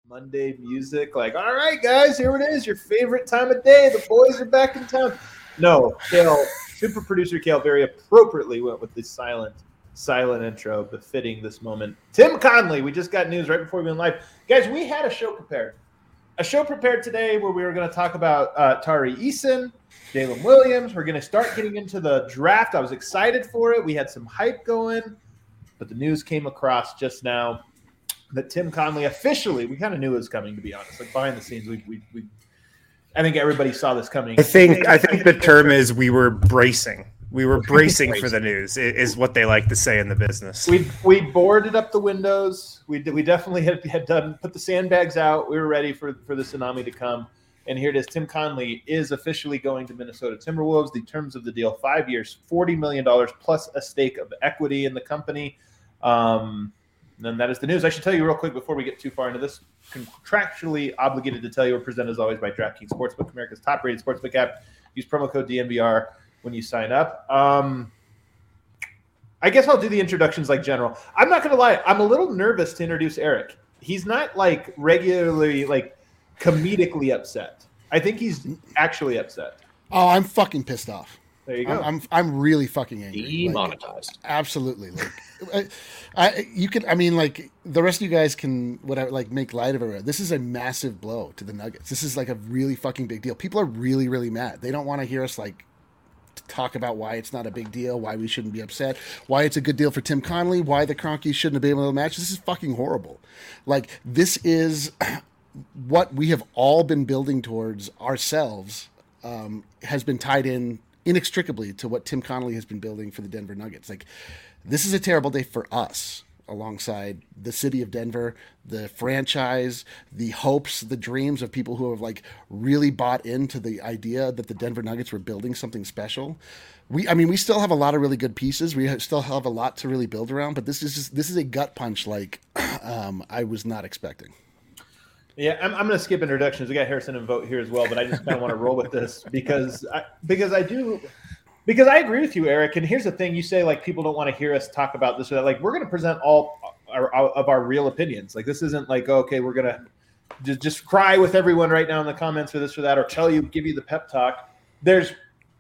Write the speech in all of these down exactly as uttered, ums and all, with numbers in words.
Monday music, like, all right, guys, here it is, your favorite time of day. The boys are back in town. No, Kale, super producer Kale very appropriately went with the silent, silent intro befitting this moment. Tim Connelly, we just got news right before we went live. Guys, we had a show prepared. A show prepared today where we were going to talk about uh, Tari Eason, Jalen Williams. We're going to start getting into the draft. I was excited for it. We had some hype going, but the news came across just now that Tim Connelly officially, we kind of knew it was coming, to be honest. Like behind the scenes, we, we, we I think everybody saw this coming. I think I think the term is we were bracing. We were bracing for the news, is what they like to say in the business. We we boarded up the windows. We we definitely had, had done put the sandbags out. We were ready for, for the tsunami to come. And here it is. Tim Connelly is officially going to Minnesota Timberwolves. The terms of the deal: five years, forty million dollars plus a stake of equity in the company. Um, And then that is the news. I should tell you real quick before we get too far into this, contractually obligated to tell you we're presented as always by DraftKings Sportsbook, America's top-rated sportsbook app. Use promo code D N V R when you sign up. Um, I guess I'll do the introductions like general. I'm not going to lie. I'm a little nervous to introduce Eric. He's not like regularly, like comedically upset. I think he's actually upset. Oh, I'm fucking pissed off. There you go. I'm I'm, I'm really fucking angry. Demonetized. Like, absolutely. Like, I, I you can. I mean, like the rest of you guys can whatever. Like make light of it. This is a massive blow to the Nuggets. This is like a really fucking big deal. People are really really mad. They don't want to hear us like talk about why it's not a big deal, why we shouldn't be upset, why it's a good deal for Tim Connelly, why the Kroenkes shouldn't have been able to match. This is fucking horrible. Like this is what we have all been building towards ourselves. Um, has been tied in inextricably to what Tim Connelly has been building for the Denver Nuggets. Like, this is a terrible day for us, alongside the city of Denver, the franchise, the hopes, the dreams of people who have like really bought into the idea that the Denver Nuggets were building something special. We, I mean, we still have a lot of really good pieces. We have, still have a lot to really build around, but this is just, this is a gut punch like um, I was not expecting. Yeah, I'm, I'm going to skip introductions. We got Harrison and Vote here as well, but I just kind of want to roll with this because I, because I do because I agree with you, Eric. And here's the thing: you say like people don't want to hear us talk about this or that. Like we're going to present all our, our, of our real opinions. Like this isn't like okay, we're going to just just cry with everyone right now in the comments or this or that, or tell you, give you the pep talk. There's,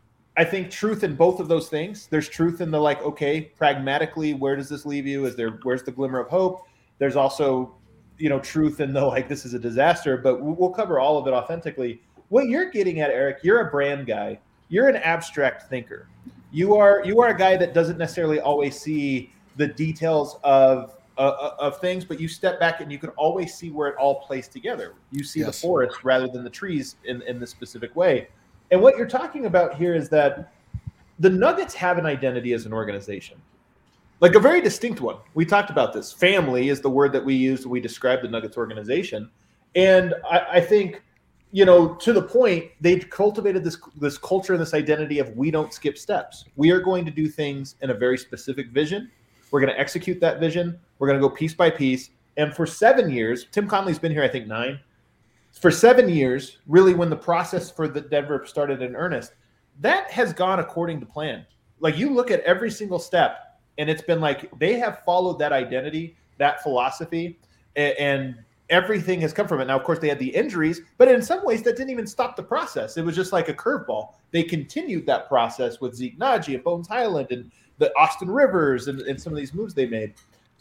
I think, truth in both of those things. There's truth in the like, okay, pragmatically, where does this leave you? Is there where's the glimmer of hope? There's also you know, truth in the like this is a disaster, but we'll cover all of it authentically. What you're getting at, Eric, you're a brand guy. You're an abstract thinker. You are you are a guy that doesn't necessarily always see the details of uh, of things, but you step back and you can always see where it all plays together. You see yes. the forest rather than the trees in, in this specific way. And what you're talking about here is that the Nuggets have an identity as an organization. Like a very distinct one. We talked about this. Family is the word that we use when we describe the Nuggets organization. And I, I think, you know, to the point, they've cultivated this this culture and this identity of we don't skip steps. We are going to do things in a very specific vision. We're going to execute that vision. We're going to go piece by piece. And for seven years, Tim Connelly's been here, I think, nine. For seven years, really when the process for the Denver started in earnest, that has gone according to plan. Like you look at every single step, and it's been like they have followed that identity, that philosophy, and, and everything has come from it. Now, of course, they had the injuries, but in some ways that didn't even stop the process. It was just like a curveball. They continued that process with Zeke Naji and Bones Highland and the Austin Rivers and, and some of these moves they made.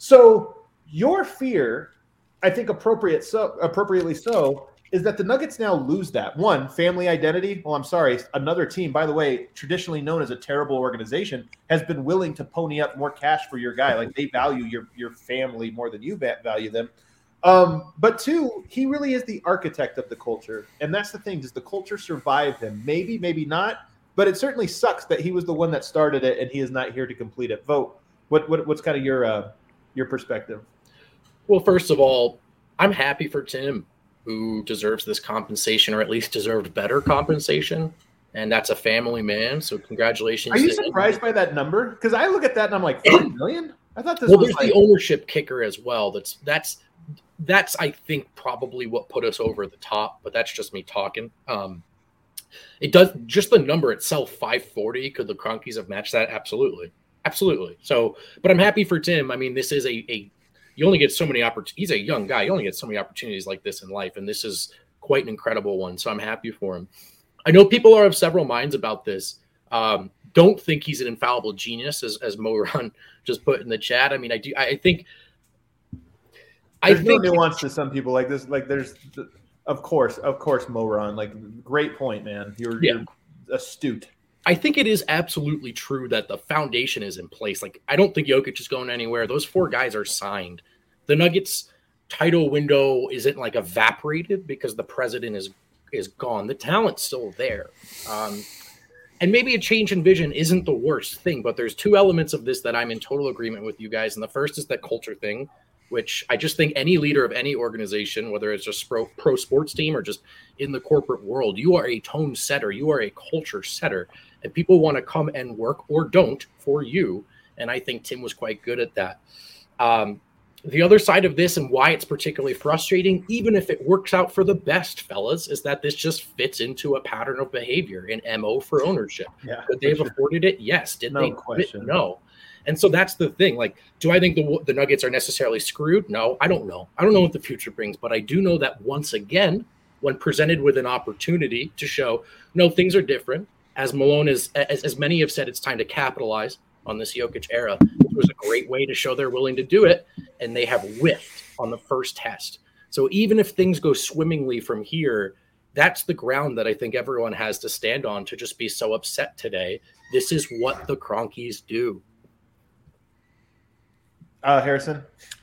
So your fear, I think appropriate so appropriately so, is that the Nuggets now lose that. One, family identity. Well, I'm sorry. Another team, by the way, traditionally known as a terrible organization, has been willing to pony up more cash for your guy. Like they value your, your family more than you value them. Um, but two, he really is the architect of the culture. And that's the thing. Does the culture survive him? Maybe, maybe not. But it certainly sucks that he was the one that started it and he is not here to complete it. Vote. What, what what's kind of your uh, your perspective? Well, first of all, I'm happy for Tim, who deserves this compensation, or at least deserved better compensation. And that's a family man. So congratulations. Are you surprised him. by that number? Because I look at that and I'm like, forty million? I thought this well, was there's like... the ownership kicker as well. That's, that's, that's, I think, probably what put us over the top, but that's just me talking. Um, it does just the number itself, five forty. Could the Kroenkes have matched that? Absolutely. Absolutely. So, but I'm happy for Tim. I mean, this is a, a, you only get so many opportunities. He's a young guy. You only get so many opportunities like this in life. And this is quite an incredible one. So I'm happy for him. I know people are of several minds about this. Um, don't think he's an infallible genius, as, as Mo Run just put in the chat. I mean, I do. I think. There's I no think nuance to some people like this. Like there's, of course, of course, Mo Run. Like great point, man. You're, Yeah. you're astute. I think it is absolutely true that the foundation is in place. Like, I don't think Jokic is going anywhere. Those four guys are signed. The Nuggets title window isn't like evaporated because the president is is gone. The talent's still there. Um, and maybe a change in vision isn't the worst thing, but there's two elements of this that I'm in total agreement with you guys. And the first is that culture thing, which I just think any leader of any organization, whether it's just pro, pro sports team or just in the corporate world, you are a tone setter. You are a culture setter. And people want to come and work or don't for you. And I think Tim was quite good at that. Um, the other side of this and why it's particularly frustrating, even if it works out for the best, fellas, is that this just fits into a pattern of behavior, an M O for ownership. Yeah, Could they have sure. afforded it? Yes. Did No they? question. No. And so that's the thing. Like, do I think the the Nuggets are necessarily screwed? No, I don't know. I don't know what the future brings, but I do know that once again, when presented with an opportunity to show, no, things are different, as Malone is, as, as many have said, it's time to capitalize on this Jokic era. It was a great way to show they're willing to do it, and they have whiffed on the first test. So even if things go swimmingly from here, that's the ground that I think everyone has to stand on to just be so upset today. This is what the Cronkies do. Uh, Harrison?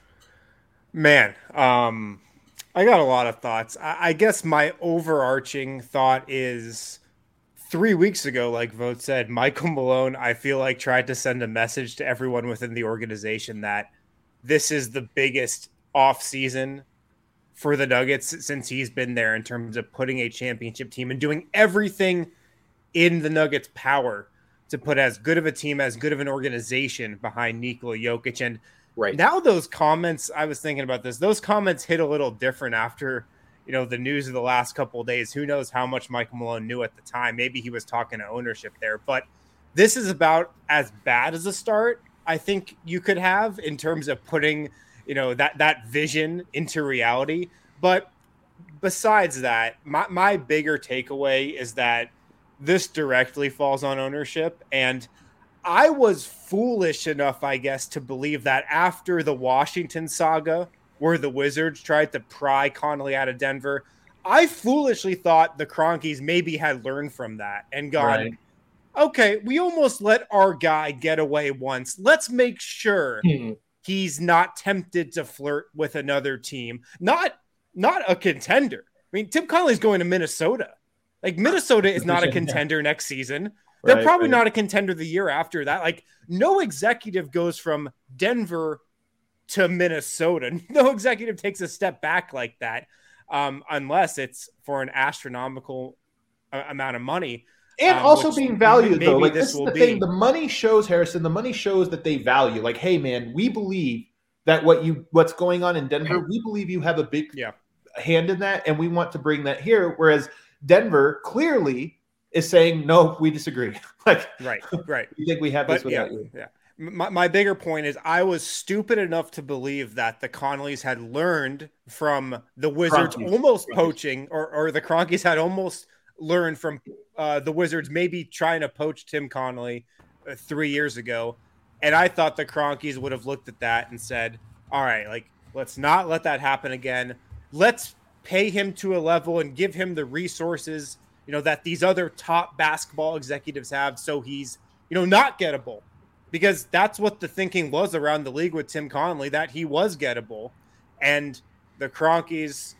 Man, um, I got a lot of thoughts. I, I guess my overarching thought is three weeks ago, like Vogt said, Michael Malone, I feel like tried to send a message to everyone within the organization that this is the biggest off season for the Nuggets since he's been there in terms of putting a championship team and doing everything in the Nuggets' power to put as good of a team, as good of an organization behind Nikola Jokic. And Right. now those comments, I was thinking about this, those comments hit a little different after, you know, the news of the last couple of days. Who knows how much Michael Malone knew at the time. Maybe he was talking to ownership there. But this is about as bad as a start I think you could have in terms of putting, you know, that, that vision into reality. But besides that, my, my bigger takeaway is that this directly falls on ownership. And I was foolish enough, I guess, to believe that after the Washington saga, where the Wizards tried to pry Connolly out of Denver, I foolishly thought the Cronkies maybe had learned from that and gone, Right. okay, we almost let our guy get away once. Let's make sure Hmm. he's not tempted to flirt with another team. Not, not a contender. I mean, Tim Connolly's going to Minnesota. Like, Minnesota is not a contender next season. They're Right, probably right. not a contender the year after that. Like, no executive goes from Denver to Minnesota. No executive takes a step back like that, um, unless it's for an astronomical uh, amount of money. And Um, also which being valued, maybe though. Like, this this is will the be. thing. The money shows, Harrison, the money shows that they value. Like, hey, man, we believe that what you what's going on in Denver, we believe you have a big Yeah. hand in that, and we want to bring that here. Whereas Denver clearly is saying, no, we disagree. Like, Right, right. we think we have this But yeah, without you. yeah. My, my bigger point is I was stupid enough to believe that the Connollys had learned from the Wizards Cronkies. almost Cronkies. poaching, or, or the Cronkies had almost learned from uh, the Wizards maybe trying to poach Tim Connolly uh, three years ago. And I thought the Cronkies would have looked at that and said, all right, like, let's not let that happen again. Let's pay him to a level and give him the resources, you know, that these other top basketball executives have, so he's, you know, not gettable. Because that's what the thinking was around the league with Tim Connolly, that he was gettable. And the Cronkies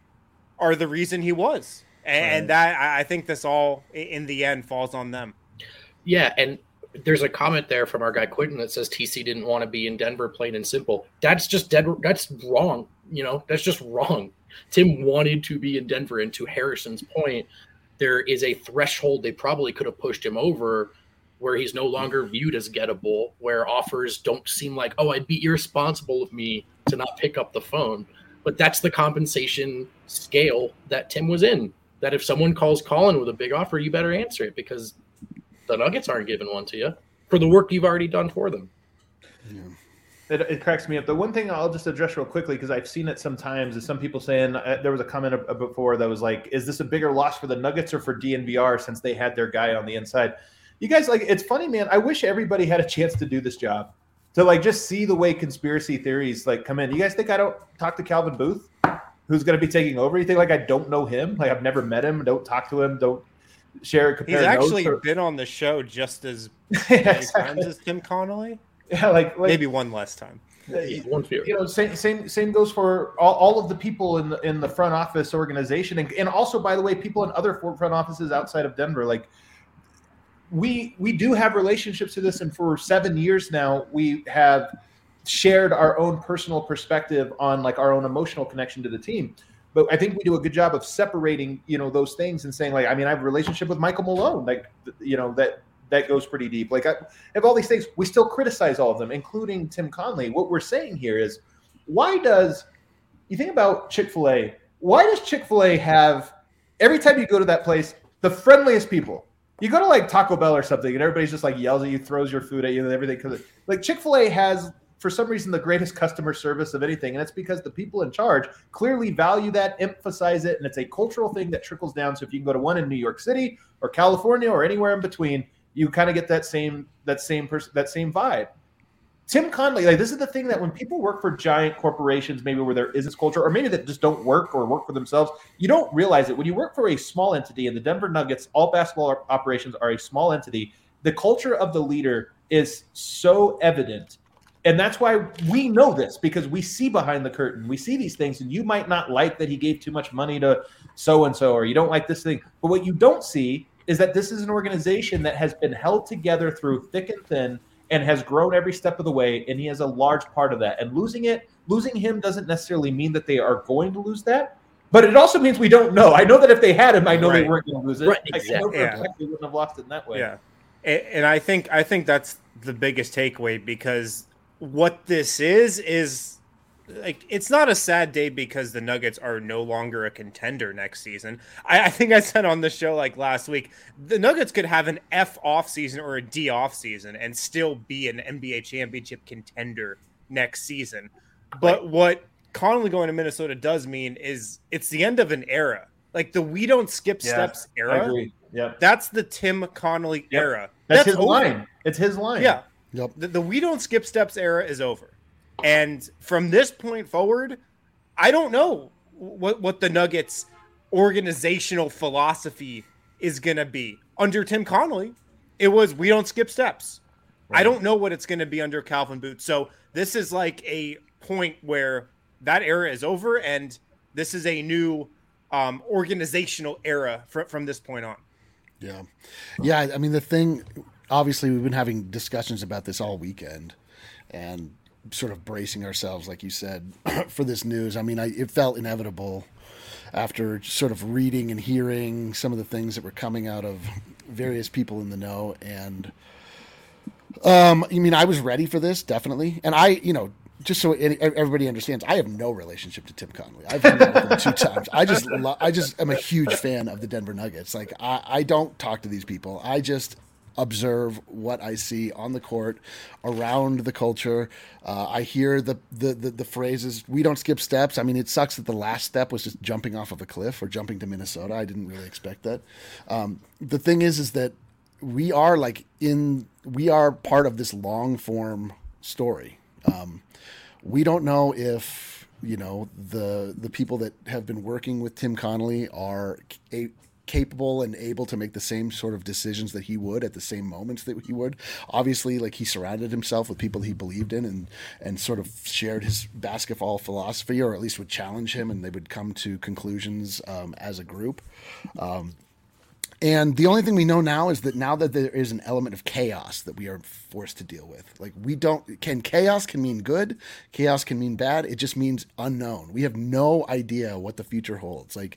are the reason he was. And Right. that, I think this all, in the end, falls on them. Yeah, and there's a comment there from our guy Quentin that says T C didn't want to be in Denver, plain and simple. That's just dead. That's wrong. You know, that's just wrong. Tim wanted to be in Denver, and to Harrison's point, there is a threshold they probably could have pushed him over where he's no longer viewed as gettable, where offers don't seem like, oh, I'd be irresponsible of me to not pick up the phone. But that's the compensation scale that Tim was in, that if someone calls Colin with a big offer, you better answer it, because the Nuggets aren't giving one to you for the work you've already done for them. Yeah. It, it cracks me up. The one thing I'll just address real quickly, because I've seen it sometimes, is some people saying uh, there was a comment uh, before that was like, "Is this a bigger loss for the Nuggets or for D N V R since they had their guy on the inside?" You guys, like, it's funny, man. I wish everybody had a chance to do this job, to like just see the way conspiracy theories like come in. You guys think I don't talk to Calvin Booth, who's going to be taking over? You think like I don't know him? Like I've never met him, don't talk to him, don't share. Compare He's actually or... been on the show just as yeah, many exactly. times as Tim Connolly. Yeah, like, like maybe one less time. One fewer. You know, same same same goes for all, all of the people in the in the front office organization, and, and also, by the way, people in other front offices outside of Denver. Like we we do have relationships to this, and for seven years now, we have shared our own personal perspective on like our own emotional connection to the team. But I think we do a good job of separating, you know, those things and saying, like, I mean, I have a relationship with Michael Malone, like, you know, that. That goes pretty deep. Like I have all these things. We still criticize all of them, including Tim Connolly. What we're saying here is, why does you think about Chick-fil-A? Why does Chick-fil-A have every time you go to that place the friendliest people? You go to like Taco Bell or something, and everybody's just like yells at you, throws your food at you, and everything. Because like Chick-fil-A has, for some reason, the greatest customer service of anything, and it's because the people in charge clearly value that, emphasize it, and it's a cultural thing that trickles down. So if you can go to one in New York City or California or anywhere in between, you kind of get that same that same person that same vibe. Tim Connolly, like this is the thing that when people work for giant corporations, maybe where there is this culture, or maybe that just don't work or work for themselves, you don't realize it. When you work for a small entity, and the Denver Nuggets, all basketball operations are a small entity, the culture of the leader is so evident. And that's why we know this, because we see behind the curtain. We see these things, and you might not like that he gave too much money to so-and-so, or you don't like this thing. But what you don't see is that this is an organization that has been held together through thick and thin and has grown every step of the way, and he has a large part of that. And losing it, losing him doesn't necessarily mean that they are going to lose that, but it also means we don't know. I know that if they had him, I know right. they weren't going to lose it. Right, exactly. I know for yeah. a fact they wouldn't have lost it in that way. Yeah, and I think I think that's the biggest takeaway, because what this is is like, it's not a sad day because the Nuggets are no longer a contender next season. I, I think I said on the show like last week, the Nuggets could have an F off season or a D off season and still be an N B A championship contender next season. But what Connolly going to Minnesota does mean is it's the end of an era. Like the we don't skip Yeah, steps I era. agree. Yep. That's the Tim Connolly Yep. era. That's, That's his over. line. It's his line. Yeah. Yep. The, the we don't skip steps era is over. And from this point forward, I don't know what, what the Nuggets organizational philosophy is going to be. Under Tim Connolly, it was we don't skip steps. Right. I don't know what it's going to be under Calvin Booth. So this is like a point where that era is over, and this is a new um, organizational era fr- from this point on. Yeah. Yeah. I mean, the thing, obviously, we've been having discussions about this all weekend and sort of bracing ourselves, like you said, for this news. I mean, I, it felt inevitable after sort of reading and hearing some of the things that were coming out of various people in the know. And um, I mean, I was ready for this, definitely. And I, you know, just so everybody understands, I have no relationship to Tim Connolly. I've hung out with him two times. I just, lo- I just am a huge fan of the Denver Nuggets. Like, I, I don't talk to these people. I just observe what I see on the court, around the culture. Uh, I hear the, the the the phrases, we don't skip steps. I mean, it sucks that the last step was just jumping off of a cliff or jumping to Minnesota. I didn't really expect that. Um, the thing is, is that we are like in, we are part of this long form story. Um, we don't know if, you know, the the people that have been working with Tim Connolly are a, capable and able to make the same sort of decisions that he would at the same moments that he would. Obviously, like, he surrounded himself with people he believed in and and sort of shared his basketball philosophy, or at least would challenge him, and they would come to conclusions um, as a group. Um, and the only thing we know now is that now that there is an element of chaos that we are forced to deal with. Like, we don't, can chaos can mean good, chaos can mean bad. It just means unknown. We have no idea what the future holds. Like,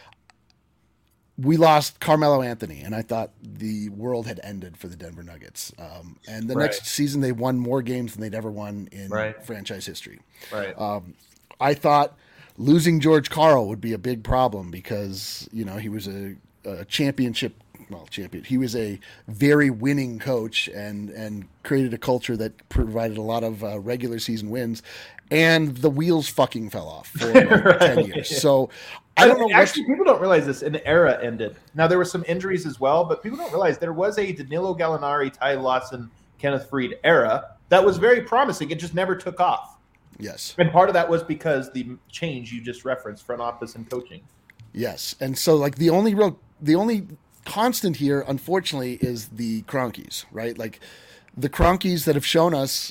we lost Carmelo Anthony, and I thought the world had ended for the Denver Nuggets. Um, and the Right. next season, they won more games than they'd ever won in Right. franchise history. Right. Um, I thought losing George Karl would be a big problem because, you know, he was a, a championship well, champion. He was a very winning coach and and created a culture that provided a lot of uh, regular season wins, and the wheels fucking fell off for like Right. ten years. So I don't know. Actually, What, people don't realize this. An era ended. Now there were some injuries as well, but people don't realize there was a Danilo Gallinari, Ty Lawson, Kenneth Frid era that was very promising. It just never took off. yes, And part of that was because the change you just referenced, front office and coaching. yes, and so like the only real, the only constant here, unfortunately, is the Kroenkes, right? Like the Kroenkes that have shown us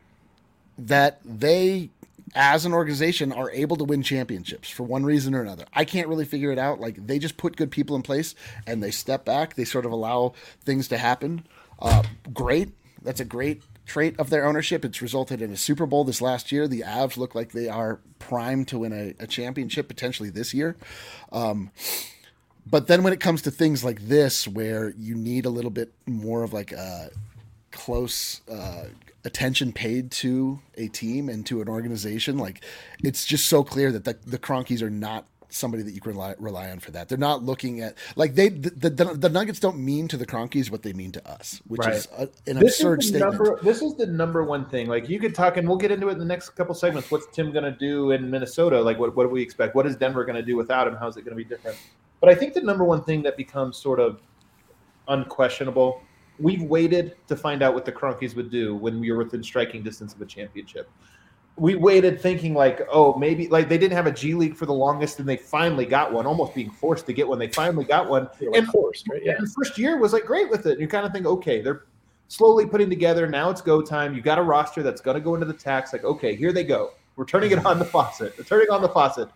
that they, as an organization, are able to win championships for one reason or another. I can't really figure it out. Like they just put good people in place and they step back. They sort of allow things to happen. Uh, great. That's a great trait of their ownership. It's resulted in a Super Bowl this last year. The Avs look like they are primed to win a, a championship potentially this year. Um, but then when it comes to things like this, where you need a little bit more of like a close uh, attention paid to a team and to an organization, like it's just so clear that the, the Kroenkes are not somebody that you can rely, rely on for that. They're not looking at like they the, the, the Nuggets don't mean to the Kroenkes what they mean to us, which Right. is a, an This absurd is the statement. number. This is the number one thing. Like you could talk, and we'll get into it in the next couple segments. What's Tim going to do in Minnesota? Like what, what do we expect? What is Denver going to do without him? How's it going to be different? But I think the number one thing that becomes sort of unquestionable, we've waited to find out what the Kroenkes would do when we were within striking distance of a championship. We waited thinking like, oh, maybe like they didn't have a G League for the longest and they finally got one, almost being forced to get one. They finally got one. You're like And forced, right? Yeah. and the first year was like great with it. And you kind of think, okay, they're slowly putting together. Now it's go time. You got a roster that's going to go into the tax. Like, okay, here they go. We're turning it on the faucet. We're turning on the faucet.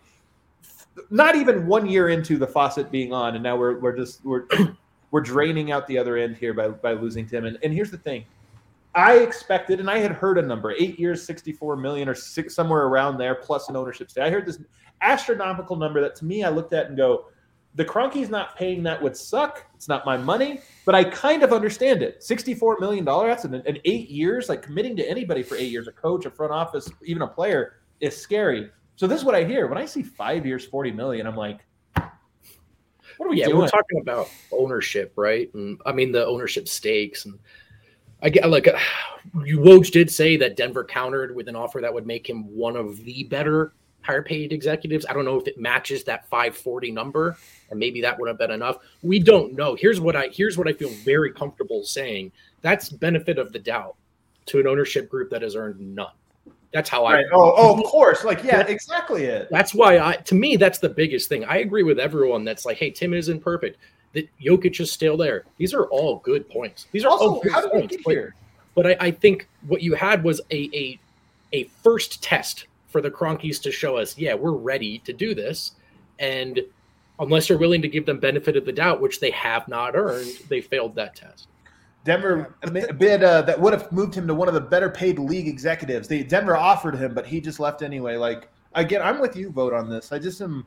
Not even one year into the faucet being on, and now we're we're just we're we're draining out the other end here by by losing Tim. And and here's the thing. I expected, and I had heard a number, eight years, sixty-four million or six, somewhere around there, plus an ownership stay. I heard this astronomical number that to me I looked at and go, the Kroenkes not paying that would suck. It's not my money, but I kind of understand it. sixty-four million dollars, that's in, in eight years, like committing to anybody for eight years, a coach, a front office, even a player, is scary. So this is what I hear. When I see five years, forty million dollars, I'm like, what are we Yeah, doing? we're talking about ownership, right? And I mean the ownership stakes, and I get like uh, Woj did say that Denver countered with an offer that would make him one of the better higher paid executives. I don't know if it matches that five forty number, and maybe that would have been enough. We don't know. Here's what I here's what I feel very comfortable saying. That's benefit of the doubt to an ownership group that has earned none. That's how Right. I. Oh, oh, of course. Like, yeah, exactly it. That's why I. To me, that's the biggest thing. I agree with everyone that's like, hey, Tim isn't perfect. That Jokic is still there. These are all good points. These are all Also, good how did we points. get But- here? But I, I think what you had was a, a a first test for the Kroenkes to show us, yeah, we're ready to do this. And unless you're willing to give them benefit of the doubt, which they have not earned, they failed that test. Denver a bid uh, that would have moved him to one of the better paid league executives. They Denver offered him, but he just left anyway. Like again, I'm with you. Vote on this. I just am.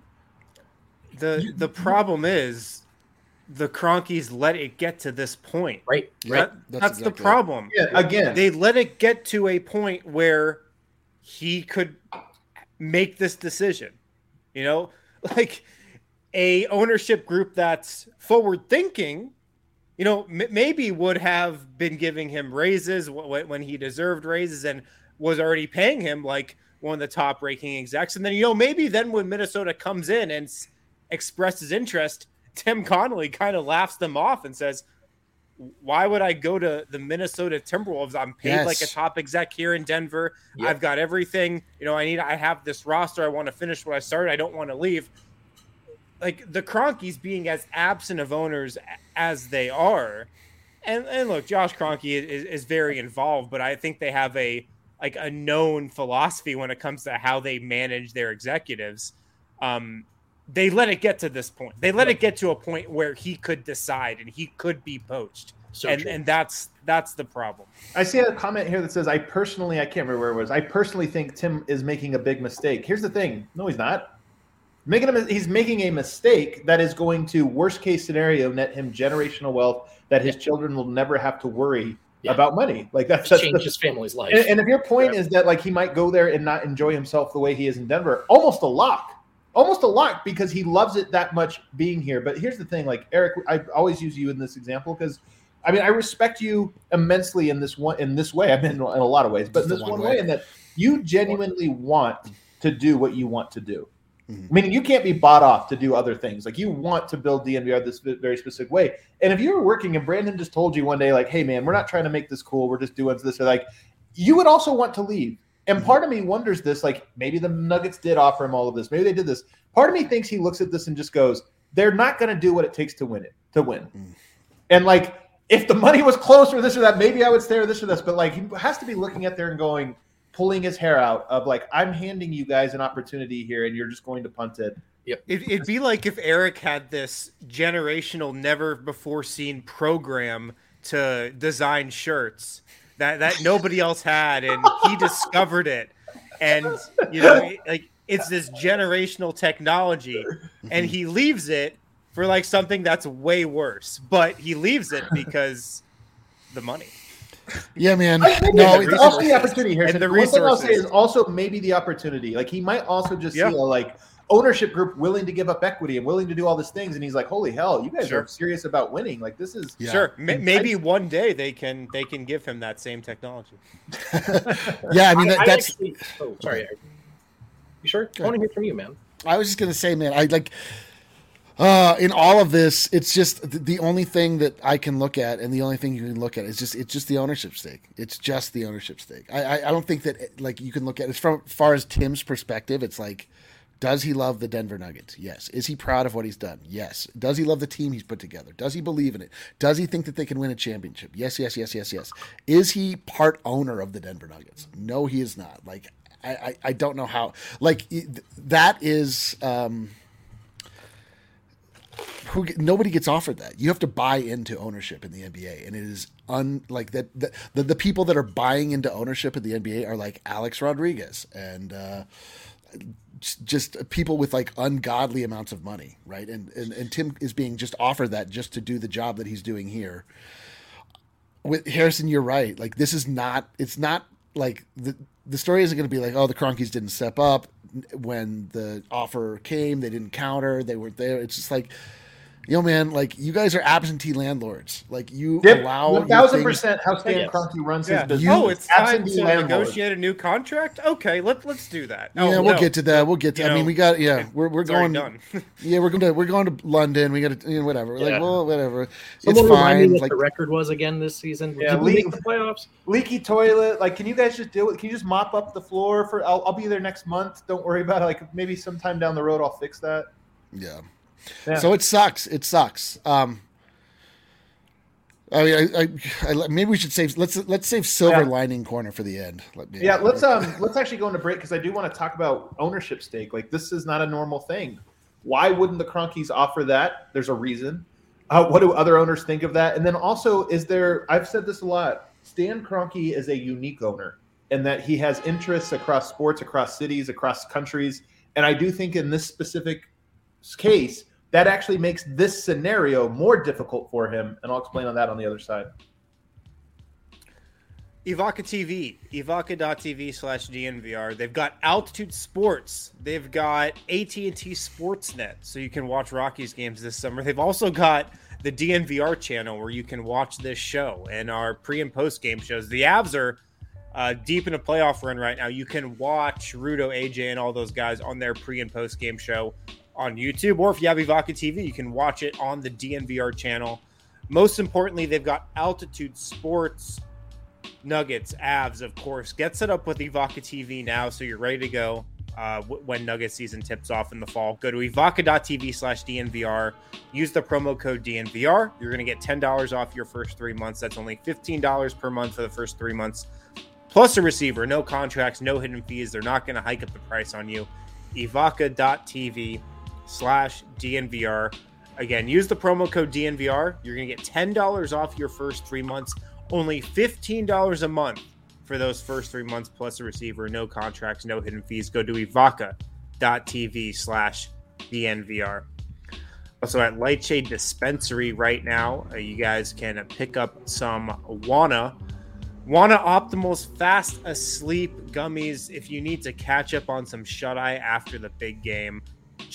The the problem is the Kroenkes let it get to this point. Right? Right. That- That's that's the exactly it. problem. Yeah, again, They let it get to a point where he could make this decision. You know, like a ownership group that's forward thinking, you know, m- maybe would have been giving him raises w- when he deserved raises and was already paying him like one of the top ranking execs. And then, you know, maybe then when Minnesota comes in and s- expresses interest, Tim Connolly kind of laughs them off and says, why would I go to the Minnesota Timberwolves? I'm paid Yes. like a top exec here in Denver. Yep. I've got everything. You know, I need, I have this roster. I want to finish what I started. I don't want to leave. Like the Kroenkes being as absent of owners as they are. And, and look, Josh Kroenke is, is very involved, but I think they have a, like a known philosophy when it comes to how they manage their executives. Um, They let it get to this point. They let it get to a point where he could decide and he could be poached. So and true. and that's that's the problem. I see a comment here that says, "I personally, I can't remember where it was. I personally think Tim is making a big mistake." Here's the thing: no, he's not. Making a, he's making a mistake that is going to, worst case scenario, net him generational wealth that his children will never have to worry Yeah. about money. Like that's, that's Change the, his family's life. and, and if your point Yeah. is that like he might go there and not enjoy himself the way he is in Denver, almost a lock. almost a lot because he loves it that much being here. But here's the thing, like Eric, I always use you in this example because I mean I respect you immensely in this one in this way. I mean in a lot of ways, but in this one, one way. way in that you genuinely want to do what you want to do. Mm-hmm. I mean, you can't be bought off to do other things. Like you want to build D N V R this very specific way. And if you were working and Brandon just told you one day, like, hey man, we're not trying to make this cool. We're just doing this. Or like, you would also want to leave. And part of me wonders this, like maybe the Nuggets did offer him all of this. Maybe they did this. Part of me thinks he looks at this and just goes, they're not going to do what it takes to win it, to win. Mm. And like, if the money was close or this or that, maybe I would stay or this or this. But like, he has to be looking at there and going, pulling his hair out of like, I'm handing you guys an opportunity here and you're just going to punt it. Yep. It, it'd be like if Eric had this generational, never before seen program to design shirts that, that nobody else had. And he discovered it. And, you know, like it's this generational technology and he leaves it for like something that's way worse, but he leaves it because the money. Yeah, man. No, it's also the opportunity here. And the one thing I'll say is also maybe the opportunity. Like he might also just yeah. see a like ownership group willing to give up equity and willing to do all these things, and he's like, "Holy hell, you guys sure. are serious about winning! Like this is yeah. sure. M- maybe one day they can they can give him that same technology." yeah, I mean that, I, I that's. Actually, oh, sorry. You sure? I want to hear from you, man. I was just gonna say, man, I like. Uh, in all of this, it's just the only thing that I can look at, and the only thing you can look at is just it's just the ownership stake. It's just the ownership stake. I I, I don't think that like you can look at it from far as Tim's perspective. It's like, does he love the Denver Nuggets? Yes. Is he proud of what he's done? Yes. Does he love the team he's put together? Does he believe in it? Does he think that they can win a championship? Yes, yes, yes, yes, yes. Is he part owner of the Denver Nuggets? No, he is not. Like I I, I don't know how. Like that is. Um, Who nobody gets offered that. You have to buy into ownership in the N B A, and it is un like that. The, the, the people that are buying into ownership in the N B A are like Alex Rodriguez and uh, just people with like ungodly amounts of money, right? And, and and Tim is being just offered that just to do the job that he's doing here. With Harrison, you're right. Like this is not. It's not like the the story isn't going to be like, oh, the Kroenkes didn't step up when the offer came. They didn't counter. They weren't there. It's just like. Yo, man, like you guys are absentee landlords. Like you yep, allow one thousand percent how Stan Kroenke runs yeah. his business. Oh, it's time to landlord. negotiate a new contract. Okay, let let's do that. Oh, yeah, we'll no. get to that. We'll get to. You I know, mean, we got yeah. We're we're going. Done. yeah, we're going to we're going to London. We got to you know, whatever. Yeah. Like well, whatever. Someone it's fine. Me what like the record was again this season. Yeah, leak, the playoffs. Leaky toilet. Like, can you guys just deal with? Can you just mop up the floor for? I'll I'll be there next month. Don't worry about it. Like maybe sometime down the road I'll fix that. Yeah. Yeah. So it sucks. It sucks. Um, I mean, I, I, I, maybe we should save. Let's let's save silver yeah. lining corner for the end. Let me, yeah, let's um let's actually go into break because I do want to talk about ownership stake. Like this is not a normal thing. Why wouldn't the Kroenkes offer that? There's a reason. Uh, what do other owners think of that? And then also, is there? I've said this a lot. Stan Kroenke is a unique owner in that he has interests across sports, across cities, across countries, and I do think in this specific case. That actually makes this scenario more difficult for him, and I'll explain on that on the other side. Evoca T V, evoca.tv slash DNVR. They've got Altitude Sports. They've got A T and T Sportsnet, so you can watch Rockies games this summer. They've also got the D N V R channel where you can watch this show and our pre- and post-game shows. The Avs are uh, deep in a playoff run right now. You can watch Rudo, A J, and all those guys on their pre- and post-game show on YouTube, or if you have Evoca T V, you can watch it on the D N V R channel. Most importantly, they've got Altitude Sports, Nuggets, Avs, of course. Get set up with Evoca T V now so you're ready to go uh, w- when Nuggets season tips off in the fall. Go to evoca.tv slash DNVR. Use the promo code D N V R. You're going to get ten dollars off your first three months. That's only fifteen dollars per month for the first three months. Plus a receiver, no contracts, no hidden fees. They're not going to hike up the price on you. evoca.tv slash DNVR. Again, use the promo code D N V R. You're going to get ten dollars off your first three months. Only fifteen dollars a month for those first three months plus a receiver. No contracts, no hidden fees. Go to evoca.tv slash DNVR. Also at Lightshade Dispensary right now, uh, you guys can pick up some Wana. Wana Optimal's Fast Asleep gummies if you need to catch up on some shut-eye after the big game.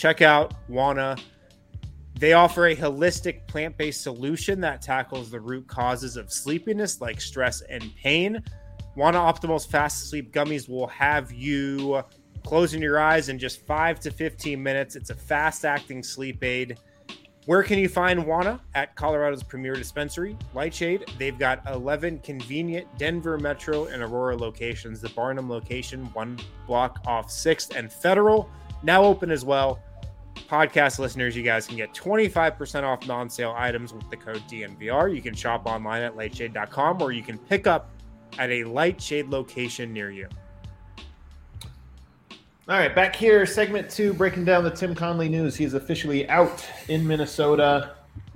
check out Wana. They offer a holistic plant-based solution that tackles the root causes of sleepiness like stress and pain. Wana Optimal's Fast Sleep Gummies will have you closing your eyes in just five to fifteen minutes. It's a fast-acting sleep aid. Where can you find Wana? At Colorado's premier dispensary, Lightshade. They've got eleven convenient Denver Metro and Aurora locations. The Barnum location, one block off sixth and Federal, now open as well. Podcast listeners, you guys can get twenty-five percent off non-sale items with the code D N V R. You can shop online at lightshade dot com or you can pick up at a Lightshade location near you. All right, back here, segment two, breaking down the Tim Connelly news. He is officially out in Minnesota,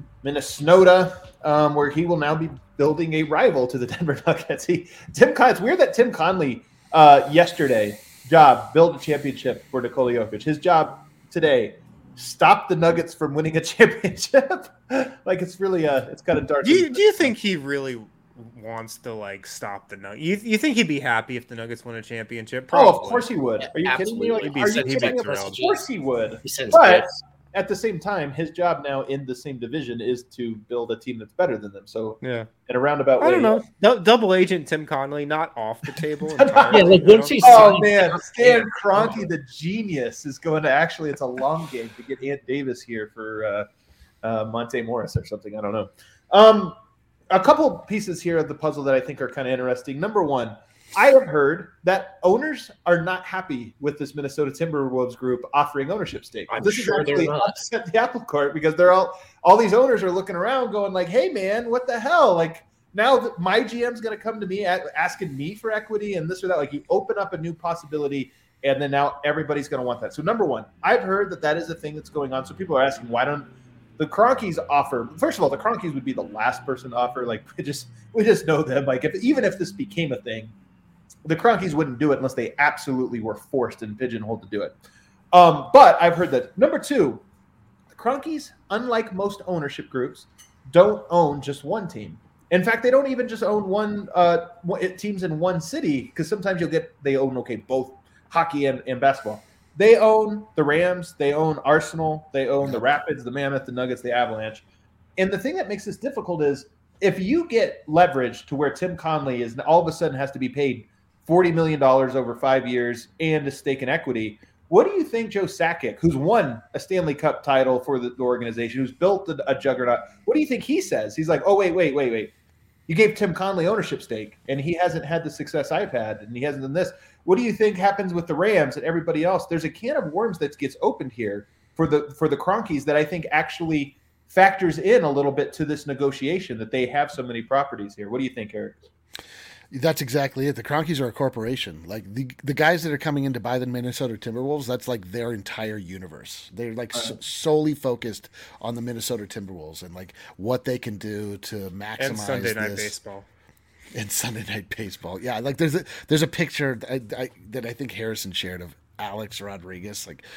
Minnesota, um, where he will now be building a rival to the Denver Nuggets. He, Tim Con- it's weird that Tim Connelly uh, yesterday job build a championship for Nikola Jokic. His job today, stop the Nuggets from winning a championship. Like it's really uh it's kind of dark. Do you, do you think he really wants to like stop the Nuggets? You, you think he'd be happy if the Nuggets won a championship? Probably. Probably. Oh, of course he would. Are you Absolutely. kidding me? Like, are you kidding me? Of course he would. He says but yes. At the same time, his job now in the same division is to build a team that's better than them. So yeah, in a roundabout way, I don't know. D- double agent Tim Connelly not off the table. Yeah, like once he's oh man, Stan Kroenke, the genius, is going to actually. It's a long game to get Ant Davis here for uh, uh, Monte Morris or something. I don't know. Um, a couple pieces here of the puzzle that I think are kind of interesting. Number one, I have heard that owners are not happy with this Minnesota Timberwolves group offering ownership stake. I'm this sure is actually they're not. upset the apple cart because they're all all these owners are looking around going like, hey man, what the hell? Like now that my G M's going to come to me at, asking me for equity and this or that. Like you open up a new possibility and then now everybody's going to want that. So number one, I've heard that that is a thing that's going on. So people are asking, why don't the Kroenkes offer? First of all, the Kroenkes would be the last person to offer. Like we just we just know them. Like if even if this became a thing, the Kroenkes wouldn't do it unless they absolutely were forced and pigeonholed to do it. Um, but I've heard that. Number two, the Kroenkes, unlike most ownership groups, don't own just one team. In fact, they don't even just own one uh, teams in one city because sometimes you'll get they own okay both hockey and, and basketball. They own the Rams, they own Arsenal, they own the Rapids, the Mammoth, the Nuggets, the Avalanche. And the thing that makes this difficult is if you get leverage to where Tim Connelly is all of a sudden has to be paid forty million dollars over five years and a stake in equity. What do you think Joe Sakic, who's won a Stanley Cup title for the, the organization, who's built a, a juggernaut, what do you think he says? He's like, oh, wait, wait, wait, wait. You gave Tim Connelly ownership stake, and he hasn't had the success I've had, and he hasn't done this. What do you think happens with the Rams and everybody else? There's a can of worms that gets opened here for the for the Kroenkes that I think actually factors in a little bit to this negotiation that they have so many properties here. What do you think, Eric? That's exactly it. The Kroenkes are a corporation. Like the the guys that are coming in to buy the Minnesota Timberwolves, that's like their entire universe. They're like Uh-huh. so, solely focused on the Minnesota Timberwolves and like what they can do to maximize And Sunday Night this. Baseball. And Sunday Night Baseball. Yeah, like there's a there's a picture that I, I, that I think Harrison shared of Alex Rodriguez like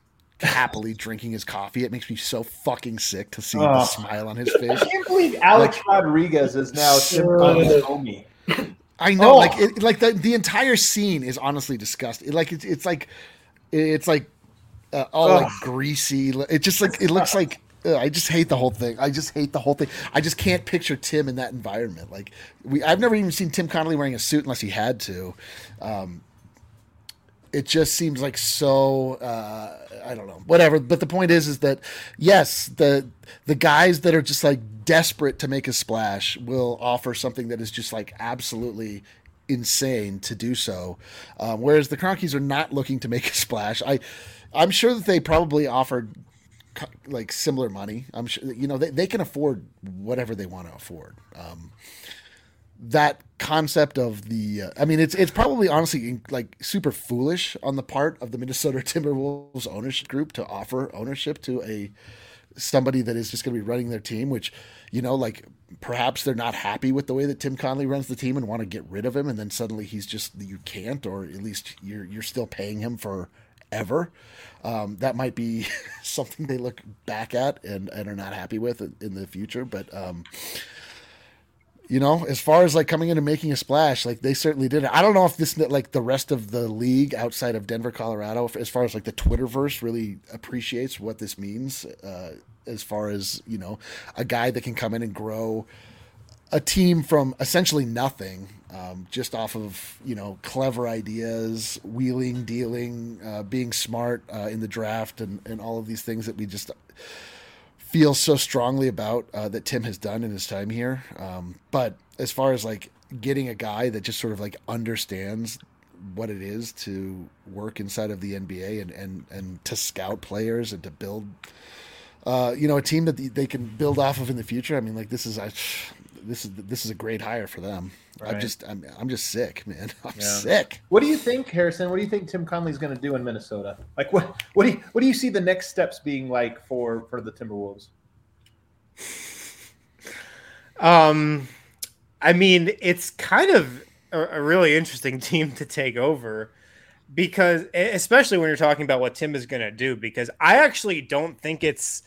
happily drinking his coffee. It makes me so fucking sick to see Oh. the smile on his face. I can't believe Alex Rodriguez is now Tim Connelly's homie. I know, Oh. like, it, like the the entire scene is honestly disgusting. Like it's it's like it's like uh, all Ugh. like greasy. It just like it looks like. Ugh, I just hate the whole thing. I just hate the whole thing. I just can't picture Tim in that environment. Like we, I've never even seen Tim Connelly wearing a suit unless he had to. Um, it just seems like so. Uh, I don't know. Whatever. But the point is, is that yes, the the guys that are just like desperate to make a splash will offer something that is just like absolutely insane to do so. Um, whereas the Kroenkes are not looking to make a splash. I, I'm sure that they probably offered co- like similar money. I'm sure you know they, they can afford whatever they want to afford. Um, that concept of the, uh, I mean, it's it's probably honestly like super foolish on the part of the Minnesota Timberwolves ownership group to offer ownership to a somebody that is just going to be running their team, which, you know, like perhaps they're not happy with the way that Tim Connelly runs the team and want to get rid of him. And then suddenly he's just, you can't, or at least you're, you're still paying him forever. Um, that might be something they look back at and, and are not happy with in the future. But, um, you know, as far as like coming in and making a splash, like they certainly did it. I don't know if this, like the rest of the league outside of Denver, Colorado, as far as like the Twitterverse really appreciates what this means, uh, as far as, you know, a guy that can come in and grow a team from essentially nothing, um, just off of, you know, clever ideas, wheeling, dealing, uh, being smart uh, in the draft, and, and all of these things that we just feel so strongly about uh, that Tim has done in his time here. Um, but as far as like getting a guy that just sort of like understands what it is to work inside of the N B A and, and, and to scout players and to build, uh, you know, a team that they can build off of in the future. I mean, like this is, I, this is, this is a great hire for them. Right. I'm just, I'm, I'm just sick, man. I'm yeah. sick. What do you think, Harrison? What do you think Tim Connelly's going to do in Minnesota? Like, what, what do you, what do you see the next steps being like for, for the Timberwolves? Um, I mean, it's kind of a, a really interesting team to take over because, especially when you're talking about what Tim is going to do, because I actually don't think it's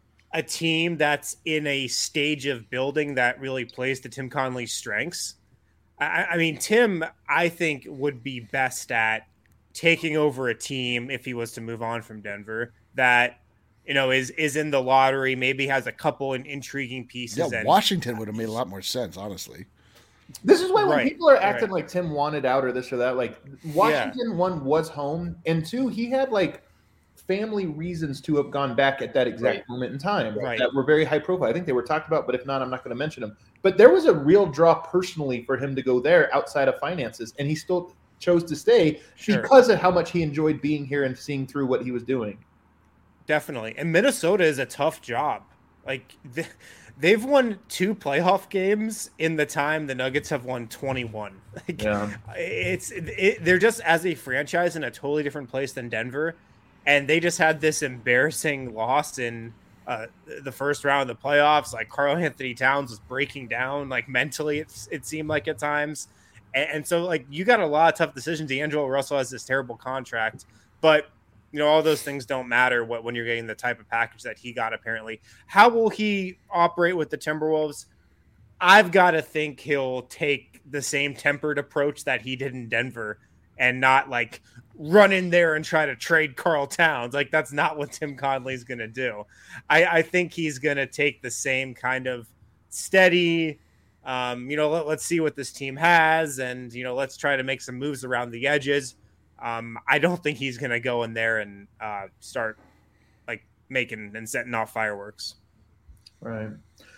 a team that's in a stage of building that really plays to Tim Connelly's strengths. I, I mean, Tim, I think, would be best at taking over a team if he was to move on from Denver that, you know, is is in the lottery, maybe has a couple in intriguing pieces. Yeah, and Washington would have made a lot more sense, honestly. This is why when right, people are acting right. like Tim wanted out or this or that, like Washington, yeah. one, was home, and two, he had like family reasons to have gone back at that exact right. moment in time right. that were very high profile. I think they were talked about, but if not, I'm not going to mention them. But there was a real draw personally for him to go there outside of finances, and he still chose to stay sure. because of how much he enjoyed being here and seeing through what he was doing. Definitely. And Minnesota is a tough job. Like th- they've won two playoff games in the time the Nuggets have won twenty-one. Like, yeah. It's it, they're just as a franchise in a totally different place than Denver. And they just had this embarrassing loss in uh, the first round of the playoffs. Like Karl Anthony Towns was breaking down, like mentally, it's, it seemed like at times. And, and so like you got a lot of tough decisions. D'Angelo Russell has this terrible contract, but you know, all those things don't matter what, when you're getting the type of package that he got, apparently. How will he operate with the Timberwolves? I've got to think he'll take the same tempered approach that he did in Denver and not like run in there and try to trade Karl Towns. Like that's not what Tim Connelly's going to do. I, I think he's going to take the same kind of steady, um, you know, let, let's see what this team has. And, you know, let's try to make some moves around the edges. Um, I don't think he's going to go in there and uh, start like making and setting off fireworks. Right.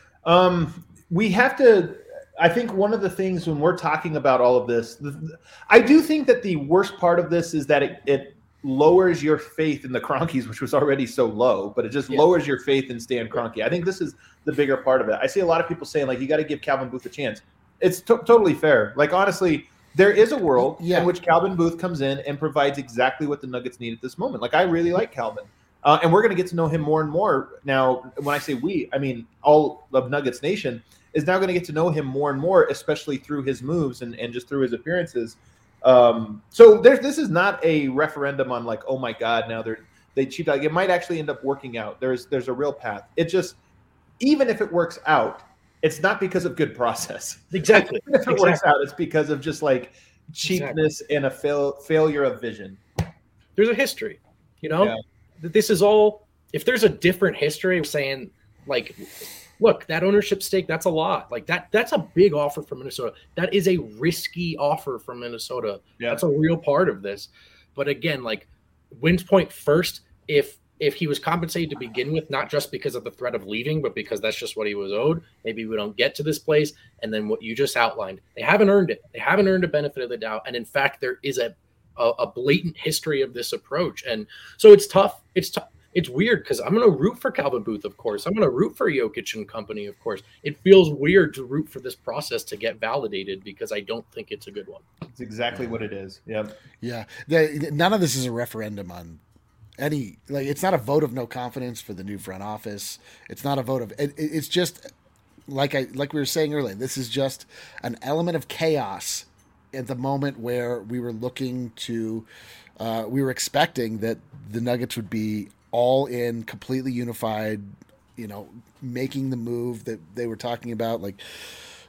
Um, we have to, I think one of the things when we're talking about all of this, I do think that the worst part of this is that it, it lowers your faith in the Cronkies, which was already so low, but it just yeah. lowers your faith in Stan Kroenke. I think this is the bigger part of it. I see a lot of people saying like, you got to give Calvin Booth a chance. It's to- totally fair. Like, honestly, there is a world yeah. in which Calvin Booth comes in and provides exactly what the Nuggets need at this moment. Like, I really like Calvin. Uh, and we're going to get to know him more and more. Now, when I say we, I mean all of Nuggets Nation is now going to get to know him more and more, especially through his moves and, and just through his appearances. Um, so there's, this is not a referendum on like, oh, my God, now they're, they cheat. Like, it might actually end up working out. There's there's a real path. It just, even if it works out, it's not because of good process. Exactly. If it exactly. works out, it's because of just like cheapness exactly. and a fail, failure of vision. There's a history, you know, yeah. This is all, if there's a different history saying like, look, that ownership stake, that's a lot. Like that, that's a big offer from Minnesota. That is a risky offer from Minnesota. Yeah. That's a real part of this. But again, like wins point first, if, if he was compensated to begin with, not just because of the threat of leaving, but because that's just what he was owed, maybe we don't get to this place. And then what you just outlined, they haven't earned it. They haven't earned a benefit of the doubt. And in fact, there is a, a, a blatant history of this approach. And so it's tough. It's tough. It's weird because I'm going to root for Calvin Booth, of course. I'm going to root for Jokic and company, of course. It feels weird to root for this process to get validated because I don't think it's a good one. It's exactly what it is. Yeah. Yeah. The, none of this is a referendum on any, like, it's not a vote of no confidence for the new front office. It's not a vote of, it, it's just like I, like we were saying earlier, this is just an element of chaos at the moment where we were looking to, uh, we were expecting that the Nuggets would be all in, completely unified, you know, making the move that they were talking about, like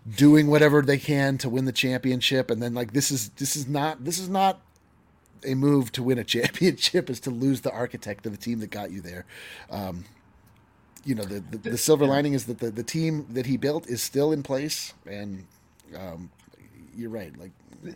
doing whatever they can to win the championship, and then like this is this is not this is not a move to win a championship, is to lose the architect of the team that got you there. Um, you know, the, the the silver lining is that the the team that he built is still in place, and um, you're right. Like,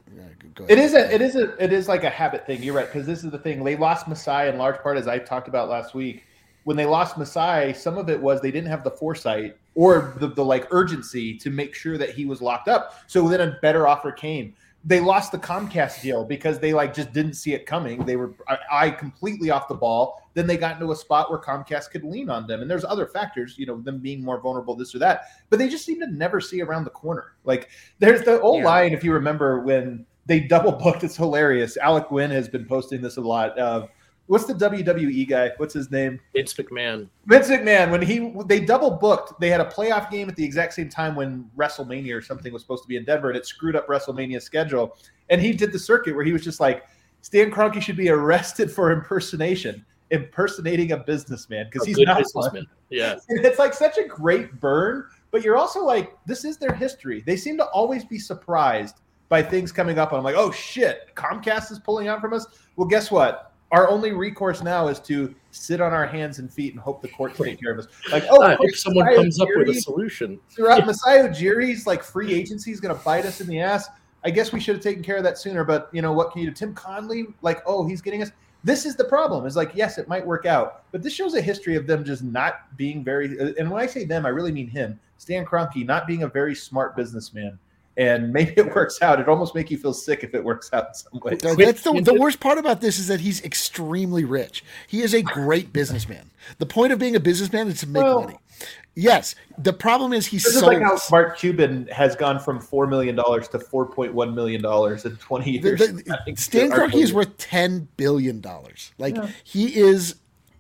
go ahead. It is a, it is a, it is like a habit thing. You're right, because this is the thing. They lost Masai in large part, as I talked about last week. When they lost Masai, some of it was they didn't have the foresight or the, the like urgency to make sure that he was locked up. So then a better offer came. They lost the Comcast deal because they like just didn't see it coming. They were I, I completely off the ball. Then they got into a spot where Comcast could lean on them. And there's other factors, you know, them being more vulnerable, this or that. But they just seem to never see around the corner. Like there's the old yeah. line, if you remember, when they double booked. It's hilarious. Alec Gwynn has been posting this a lot. Uh, what's the W W E guy? What's his name? Vince McMahon. Vince McMahon. When he they double booked, they had a playoff game at the exact same time when WrestleMania or something was supposed to be in Denver, and it screwed up WrestleMania's schedule. And he did the circuit where he was just like, Stan Kroenke should be arrested for impersonation, impersonating a businessman, because he's not businessman. Yeah, and it's like such a great burn. But you're also like, this is their history. They seem to always be surprised by things coming up, and I'm like, oh shit, Comcast is pulling out from us. Well, guess what? Our only recourse now is to sit on our hands and feet and hope the court take care of us. Like, oh, uh, if someone Masai comes Ujiri, up with a solution. Throughout Masai Ujiri's like free agency is going to bite us in the ass. I guess we should have taken care of that sooner. But you know what can you do? Tim Conley, like, oh, he's getting us. This is the problem. Is like, yes, it might work out, but this shows a history of them just not being very. And when I say them, I really mean him, Stan Kroenke, not being a very smart businessman. And maybe it works out. It almost make you feel sick if it works out in some way. That's the, the worst part about this is that he's extremely rich. He is a great businessman. The point of being a businessman is to make well, money. Yes. The problem is he's this so. Is like how Mark Cuban has gone from four million dollars to four point one million dollars in twenty years. The, the, Stan Kroenke is worth ten billion dollars. Like yeah. he is,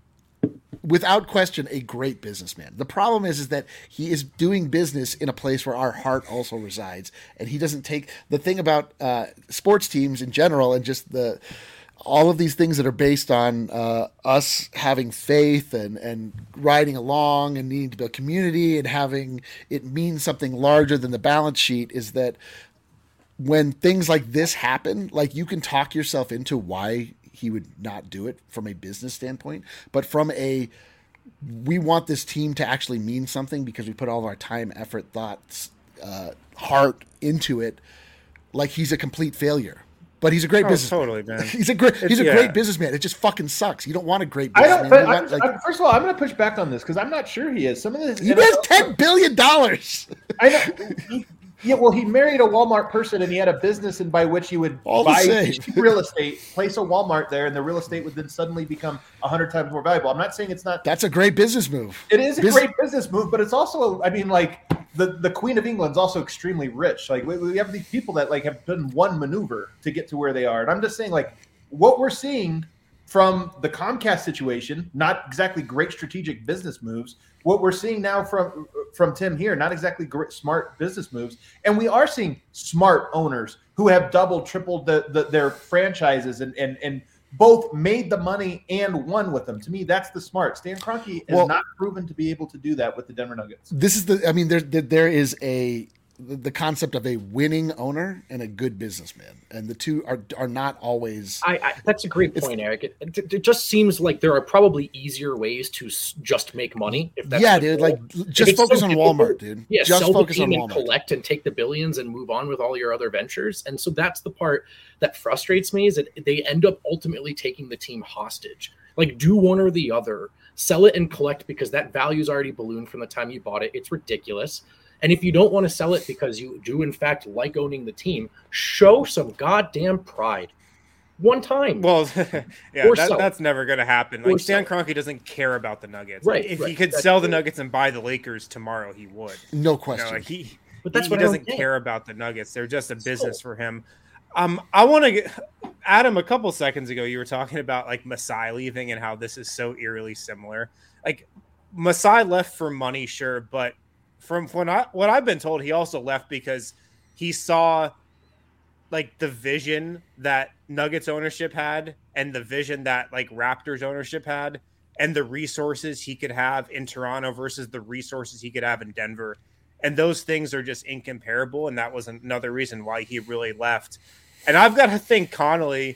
without question, a great businessman. The problem is, is that he is doing business in a place where our heart also resides, and he doesn't take the thing about uh, sports teams in general, and just the all of these things that are based on uh, us having faith and and riding along and needing to build community and having it mean something larger than the balance sheet. Is that when things like this happen, like you can talk yourself into why he would not do it from a business standpoint, but from a, we want this team to actually mean something because we put all of our time, effort, thoughts, uh, heart into it. Like he's a complete failure, but he's a great oh, businessman. Totally, man. He's a great, he's it's, a yeah. great businessman. It just fucking sucks. You don't want a great businessman. I don't, want, like, I'm, first of all, I'm going to push back on this because I'm not sure he is. Some of this, he has ten billion dollars. I know. He, Yeah, well, he married a Walmart person, and he had a business, and by which he would All buy real estate, place a Walmart there, and the real estate would then suddenly become a hundred times more valuable. I'm not saying it's not. That's a great business move. It is a Bus- great business move, but it's also, I mean, like the, the Queen of England's also extremely rich. Like we, we have these people that like have done one maneuver to get to where they are, and I'm just saying, like what we're seeing from the Comcast situation, not exactly great strategic business moves. What we're seeing now from from Tim here, not exactly great, smart business moves. And we are seeing smart owners who have doubled, tripled the, the, their franchises and, and, and both made the money and won with them. To me, that's the smart. Stan Kroenke has well, not proven to be able to do that with the Denver Nuggets. This is the, I mean, there, there is a, the concept of a winning owner and a good businessman, and the two are are not always. I, I that's a great point, Eric. It, it, it just seems like there are probably easier ways to s- just make money. If that's yeah, dude, goal. like just focus so on Walmart, dude. Yeah, just sell focus the on team Walmart, and collect and take the billions and move on with all your other ventures. And so that's the part that frustrates me is that they end up ultimately taking the team hostage. Like, do one or the other, sell it and collect because that value's already ballooned from the time you bought it. It's ridiculous. And if you don't want to sell it because you do, in fact, like owning the team, show some goddamn pride. One time. Well, yeah, that, that's never going to happen. Like, Stan Kroenke doesn't care about the Nuggets. Right. Like, if right. he could that's sell the true. Nuggets and buy the Lakers tomorrow, he would. No question. You know, like he, but that's he, what he doesn't care about the Nuggets. They're just a business for him. Um, I want to get Adam. A couple seconds ago, you were talking about like Masai leaving and how this is so eerily similar. Like Masai left for money, sure, but from when I what I've been told, he also left because he saw like the vision that Nuggets ownership had and the vision that like Raptors ownership had and the resources he could have in Toronto versus the resources he could have in Denver. And those things are just incomparable. And that was another reason why he really left. And I've got to think Connolly,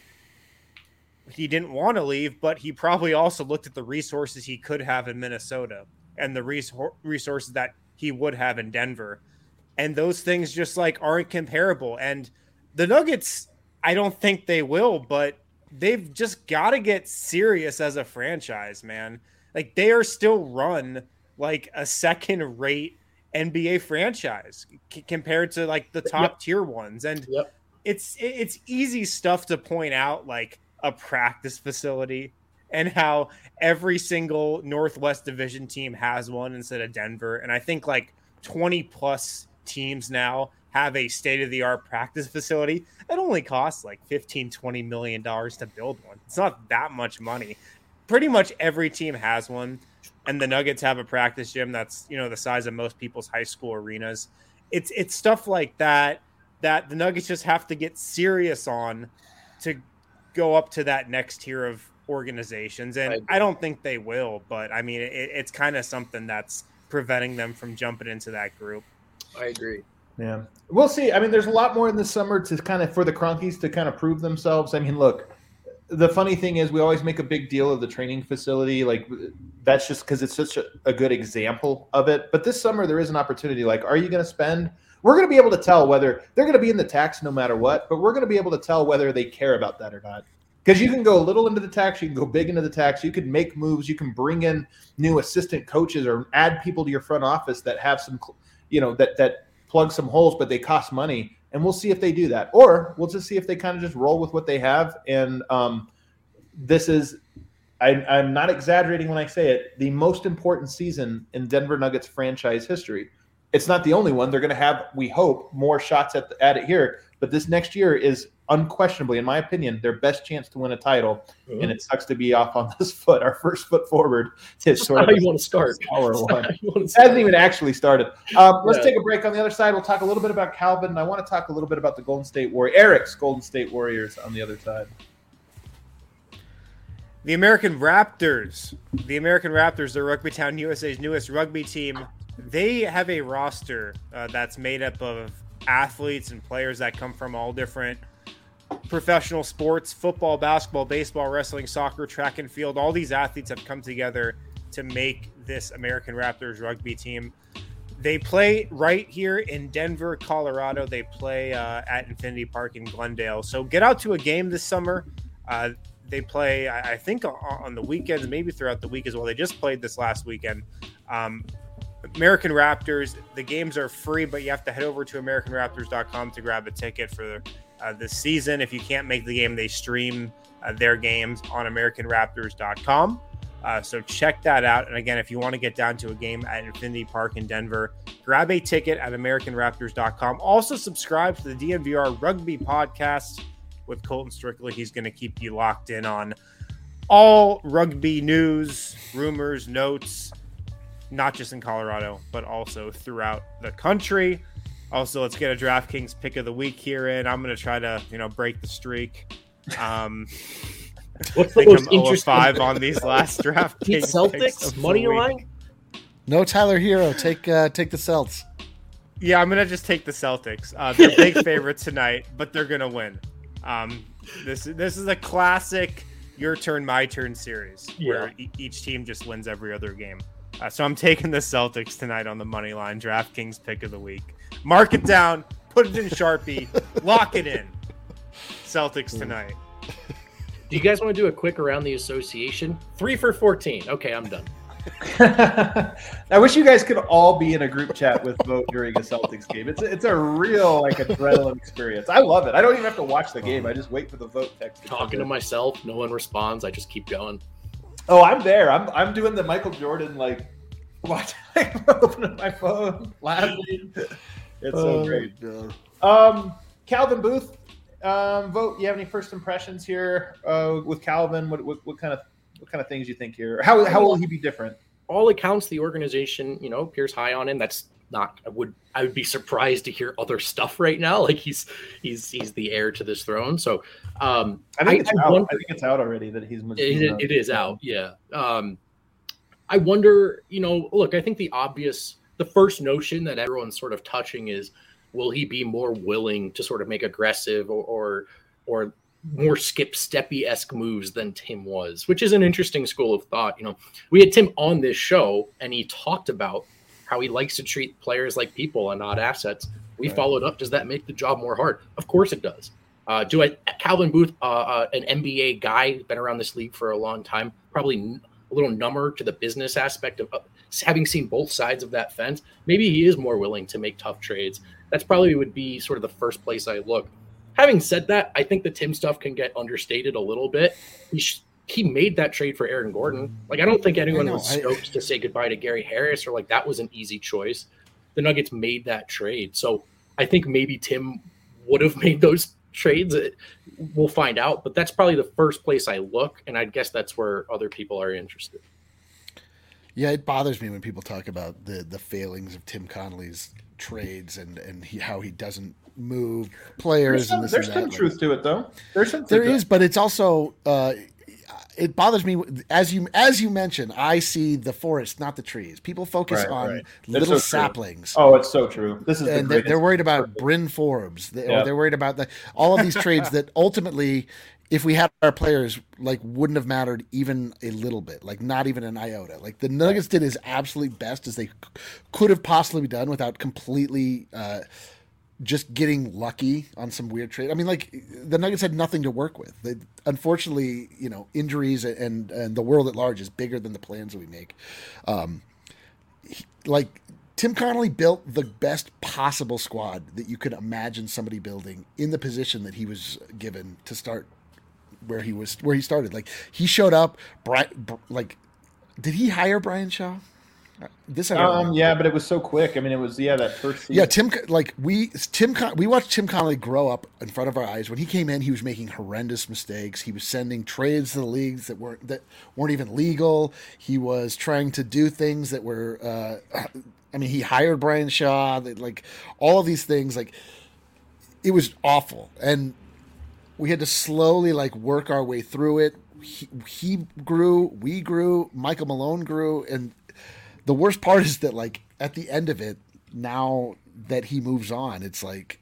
he didn't want to leave, but he probably also looked at the resources he could have in Minnesota and the res- resources that he would have in Denver. And those things just like aren't comparable. And the Nuggets, I don't think they will, but they've just got to get serious as a franchise, man. Like they are still run like a second rate N B A franchise c- compared to like the top yep. tier ones. And yep. it's, it's easy stuff to point out, like a practice facility and how every single Northwest Division team has one instead of Denver. And I think like twenty plus teams now have a state-of-the-art practice facility. It only costs like fifteen, twenty million dollars to build one. It's not that much money. Pretty much every team has one. And the Nuggets have a practice gym that's, you know, the size of most people's high school arenas. It's it's stuff like that that the Nuggets just have to get serious on to go up to that next tier of organizations. And I, I don't think they will, but I mean, it, it's kind of something that's preventing them from jumping into that group. I agree. Yeah, we'll see. I mean, there's a lot more in the summer to kind of for the Cronkies to kind of prove themselves. I mean, look, the funny thing is we always make a big deal of the training facility. Like that's just because it's such a, a good example of it. But this summer there is an opportunity. Like, are you going to spend? We're going to be able to tell whether they're going to be in the tax no matter what, but we're going to be able to tell whether they care about that or not. Because you can go a little into the tax, you can go big into the tax, you can make moves, you can bring in new assistant coaches or add people to your front office that have some, you know, that that plug some holes, but they cost money. And we'll see if they do that. Or we'll just see if they kind of just roll with what they have. And um, this is, I, I'm not exaggerating when I say it, the most important season in Denver Nuggets franchise history. It's not the only one. They're going to have, we hope, more shots at, the, at it here. But this next year is unquestionably, in my opinion, their best chance to win a title. Mm-hmm. And it sucks to be off on this foot. Our first foot forward is sort how of you want to start. One. It hasn't even actually started. Um, let's yeah. take a break. On the other side, we'll talk a little bit about Calvin. I want to talk a little bit about the Golden State Warriors, Eric's Golden State Warriors on the other side. The American Raptors. The American Raptors, the Rugby Town U S A's newest rugby team. They have a roster uh, that's made up of athletes and players that come from all different professional sports, football, basketball, baseball, wrestling, soccer, track and field. All these athletes have come together to make this American Raptors rugby team. They play right here in Denver, Colorado. They play uh, at Infinity Park in Glendale. So get out to a game this summer. Uh, they play, I think, on the weekends, maybe throughout the week as well. They just played this last weekend. Um, American Raptors, the games are free, but you have to head over to American Raptors dot com to grab a ticket for uh, this season. If you can't make the game, they stream uh, their games on American Raptors dot com. Uh, so check that out. And again, if you want to get down to a game at Infinity Park in Denver, grab a ticket at American Raptors dot com. Also subscribe to the D N V R Rugby Podcast with Colton Strictly. He's going to keep you locked in on all rugby news, rumors, notes, not just in Colorado, but also throughout the country. Also, let's get a DraftKings pick of the week here in. I'm going to try to, you know, break the streak. Um, What's I the think most I'm oh interesting? five on these last DraftKings Celtics money line? No Tyler Hero. Take uh, take the Celts. Yeah, I'm going to just take the Celtics. Uh, they're big favorites tonight, but they're going to win. Um, this, this is a classic your turn, my turn series yeah. where e- each team just wins every other game. Uh, so I'm taking the Celtics tonight on the money line. DraftKings pick of the week. Mark it down. Put it in Sharpie. Lock it in. Celtics tonight. Do you guys want to do a quick around the association? Three for fourteen. Okay, I'm done. I wish you guys could all be in a group chat with Vote during a Celtics game. It's a, it's a real like adrenaline experience. I love it. I don't even have to watch the game. I just wait for the Vote text. To Talking to myself, no one responds. I just keep going. Oh, I'm there. I'm I'm doing the Michael Jordan like watch opening my phone, laughing. It's so oh, great. Um, Calvin Booth, um, Vote. You have any first impressions here uh, with Calvin? What, what what kind of what kind of things you think here? How how will he be different? All accounts, the organization, you know, appears high on him. That's not. I would I would be surprised to hear other stuff right now. Like he's he's he's the heir to this throne. So um, I think it's I, out. I, wonder, I think it's out already that he's. It, it, it is out. Yeah. Um, I wonder. You know, look. I think the obvious the first notion that everyone's sort of touching is, will he be more willing to sort of make aggressive or or, or more skip steppy-esque moves than Tim was, which is an interesting school of thought. You know, we had Tim on this show and he talked about how he likes to treat players like people and not assets. We right. followed up. Does that make the job more hard? Of course it does. Uh, do I, Calvin Booth, uh, uh, an N B A guy, been around this league for a long time, probably n- a little number to the business aspect of uh, having seen both sides of that fence. Maybe he is more willing to make tough trades. That's probably would be sort of the first place I look. Having said that, I think the Tim stuff can get understated a little bit. He sh- he made that trade for Aaron Gordon. Like, I don't think anyone was stoked I, to say goodbye to Gary Harris, or like that was an easy choice. The Nuggets made that trade. So I think maybe Tim would have made those trades. We'll find out, but that's probably the first place I look. And I guess that's where other people are interested. Yeah, it bothers me when people talk about the, the failings of Tim Connolly's trades and, and he, how he doesn't move players. There's some, and this there's and some that. truth to it, though. There's some. There is, but it's also uh, it bothers me as you as you mentioned. I see the forest, not the trees. People focus right, on right. little so saplings. Oh, it's so true. This is and the they're, they're worried about Bryn Forbes. They, yeah. Or they're worried about the all of these trades that ultimately, if we had our players, like wouldn't have mattered even a little bit, like not even an iota. Like the Nuggets did as absolute best as they c- could have possibly done without completely uh, just getting lucky on some weird trade. I mean, like the Nuggets had nothing to work with. They, unfortunately, you know, injuries and and the world at large is bigger than the plans that we make. Um, he, like Tim Connolly built the best possible squad that you could imagine somebody building in the position that he was given to start. Where he was, where he started, like he showed up. Brian, like, did he hire Brian Shaw? This I don't um, yeah, but it was so quick. I mean, it was yeah that first season. Yeah, Tim. Like we, Tim, we watched Tim Connolly grow up in front of our eyes. When he came in, he was making horrendous mistakes. He was sending trades to the leagues that weren't that weren't even legal. He was trying to do things that were. Uh, I mean, he hired Brian Shaw. That, like all of these things, like it was awful and. We had to slowly like work our way through it. He, he grew, we grew, Michael Malone grew. And the worst part is that like at the end of it, now that he moves on, it's like,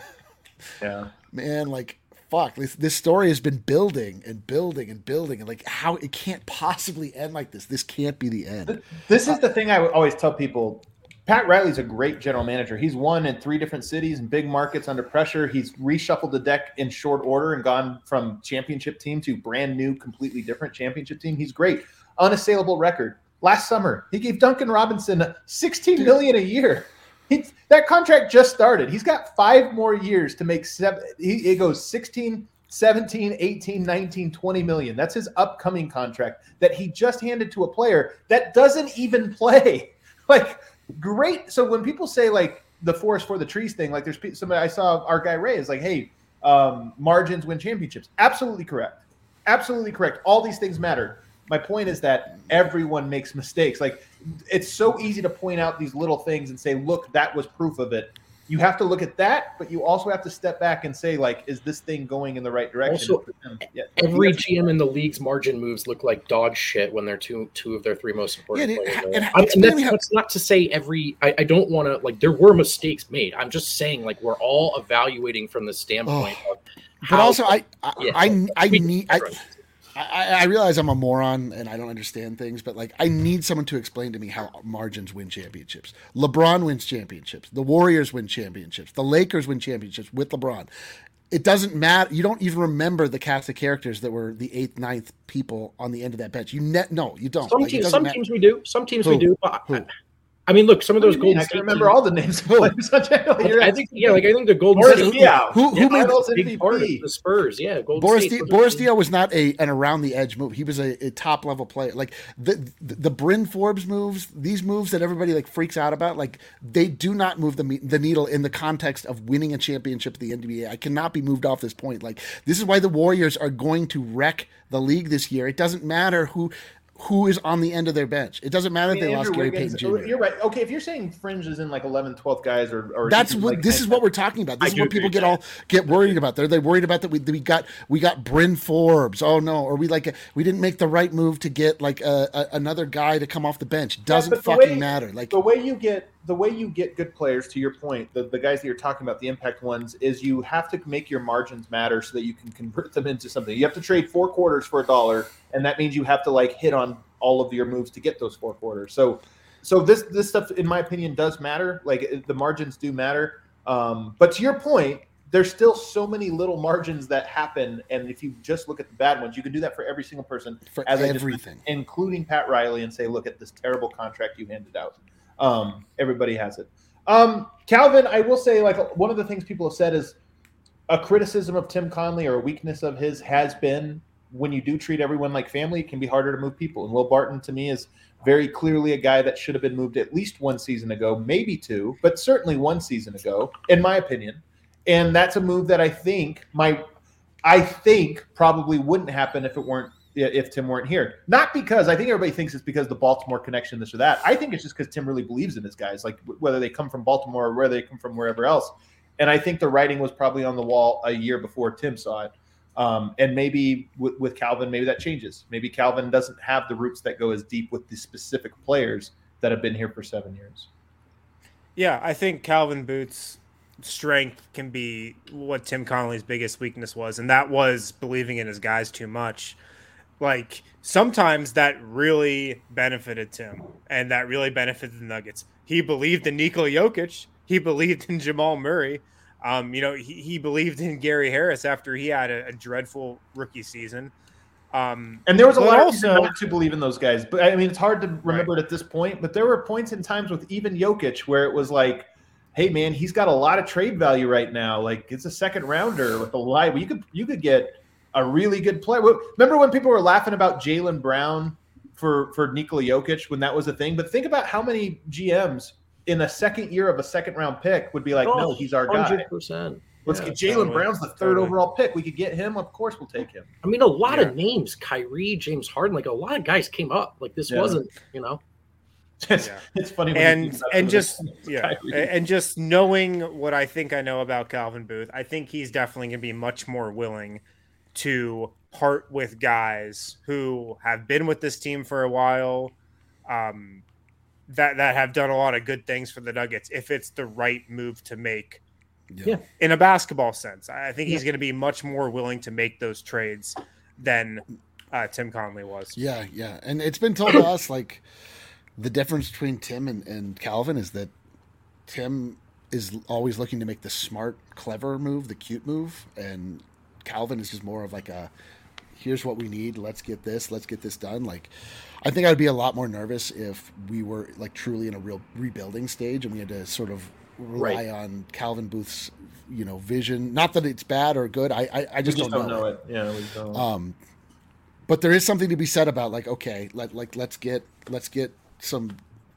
yeah, man, like, fuck, this, this story has been building and building and building. And like how it can't possibly end like this. This can't be the end. This is the thing I always tell people. Pat Riley's a great general manager. He's won in three different cities and big markets under pressure. He's reshuffled the deck in short order and gone from championship team to brand new, completely different championship team. He's great. Unassailable record. Last summer, he gave Duncan Robinson sixteen million dollars a year. He, that contract just started. He's got five more years to make seven. He, it goes sixteen, seventeen, eighteen, nineteen, twenty million. That's his upcoming contract that he just handed to a player that doesn't even play. Like, great. So when people say like the forest for the trees thing, like there's somebody I saw our guy Ray is like, hey, um, margins win championships. Absolutely correct. Absolutely correct. All these things matter. My point is that everyone makes mistakes. Like it's so easy to point out these little things and say, look, that was proof of it. You have to look at that, but you also have to step back and say, like, is this thing going in the right direction? Also, yeah, every G M in the league's margin moves look like dog shit when they're two two of their three most important yeah, players. And, and, I, and that's, that's not to say every. I, I don't want to like. There were mistakes made. I'm just saying like we're all evaluating from the standpoint oh, of. But how, also, I I yeah, I, I, I need. I, right. I, I realize I'm a moron and I don't understand things, but like I need someone to explain to me how margins win championships. LeBron wins championships. The Warriors win championships. The Lakers win championships with LeBron. It doesn't matter. You don't even remember the cast of characters that were the eighth, ninth people on the end of that bench. You ne- no, you don't. Some like, teams, some teams we do. Some teams Who? we do. But Who? I mean, look, some of those Golden Golden I State can remember teams, all the names of players. I, I think, yeah, like I think the Golden Boris State. Diaw. Who, who yeah, made Finals the, M V Big part of P? the Spurs, yeah. Golden Boris State Di- Boris Diaw was not a an around the edge move. He was a, a top level player. Like the, the the Bryn Forbes moves, these moves that everybody like freaks out about, like they do not move the the needle in the context of winning a championship at the N B A. I cannot be moved off this point. Like this is why the Warriors are going to wreck the league this year. It doesn't matter who. Who is on the end of their bench? It doesn't matter I mean, if they Andrew lost Gary Wiggins, Payton Junior You're right. Okay, if you're saying fringe is in like eleventh, twelfth guys, or, or that's even, what like, this is what we're talking about. This I is what do people agree get with all get worried about. They're they worried about that we we got we got Bryn Forbes. Oh no, or we like we didn't make the right move to get like a, a, another guy to come off the bench. Doesn't Yeah, but the fucking way- matter. Like the way you get the way you get good players, to your point, the, the guys that you're talking about, the impact ones, is you have to make your margins matter so that you can convert them into something. You have to trade four quarters for a dollar, and that means you have to like hit on all of your moves to get those four quarters. So, so this this stuff, in my opinion, does matter. Like the margins do matter. Um, but to your point, there's still so many little margins that happen, and if you just look at the bad ones, you can do that for every single person, for as everything, just, including Pat Riley, and say, look at this terrible contract you handed out. Um, everybody has it. Um, Calvin, I will say, like one of the things people have said is a criticism of Tim Connelly or a weakness of his has been when you do treat everyone like family, it can be harder to move people. And Will Barton, to me, is very clearly a guy that should have been moved at least one season ago, maybe two, but certainly one season ago, in my opinion. And that's a move that I think my, I think probably wouldn't happen if it weren't if Tim weren't here. Not because I think everybody thinks it's because the Baltimore connection, this or that. I think it's just because Tim really believes in his guys, like whether they come from Baltimore or whether they come from wherever else. And I think the writing was probably on the wall a year before Tim saw it. Um, and maybe with, with Calvin, maybe that changes. Maybe Calvin doesn't have the roots that go as deep with the specific players that have been here for seven years. Yeah, I think Calvin Booth's strength can be what Tim Connelly's biggest weakness was, and that was believing in his guys too much. Like, sometimes that really benefited Tim, and that really benefited the Nuggets. He believed in Nikola Jokic. He believed in Jamal Murray. Um, you know, he, he believed in Gary Harris after he had a, a dreadful rookie season. Um, and there was a lot also, of not to believe in those guys. But I mean, it's hard to remember right. it at this point. But there were points in times with even Jokic where it was like, hey man, he's got a lot of trade value right now. Like it's a second rounder with a live. You could you could get a really good player. Remember when people were laughing about Jaylen Brown for for Nikola Jokic when that was a thing? But think about how many G Ms in a second year of a second round pick would be like, oh, no, he's our guy. one hundred percent. Let's yeah, get Jaylen totally, Brown's the third totally. overall pick. We could get him. Of course, we'll take him. I mean, a lot yeah. of names, Kyrie, James Harden, like a lot of guys came up. Like this yeah. wasn't, you know. It's, yeah. it's funny. When and and just yeah, Kyrie. and just knowing what I think I know about Calvin Booth, I think he's definitely going to be much more willing to part with guys who have been with this team for a while, um, that that have done a lot of good things for the Nuggets if it's the right move to make. Yeah. In a basketball sense, I think yeah. he's going to be much more willing to make those trades than uh, Tim Connelly was. Yeah, yeah, and it's been told to us like the difference between Tim and, and Calvin is that Tim is always looking to make the smart, clever move, the cute move, and Calvin is just more of like a, here's what we need, let's get this, let's get this done. Like, I think I'd be a lot more nervous if we were like truly in a real rebuilding stage and we had to sort of rely right. on Calvin Booth's, you know, vision. Not that it's bad or good. I I, I just, just don't, don't know, know it. it. Yeah, we don't. Um, but there is something to be said about like, okay, let like let's get let's get some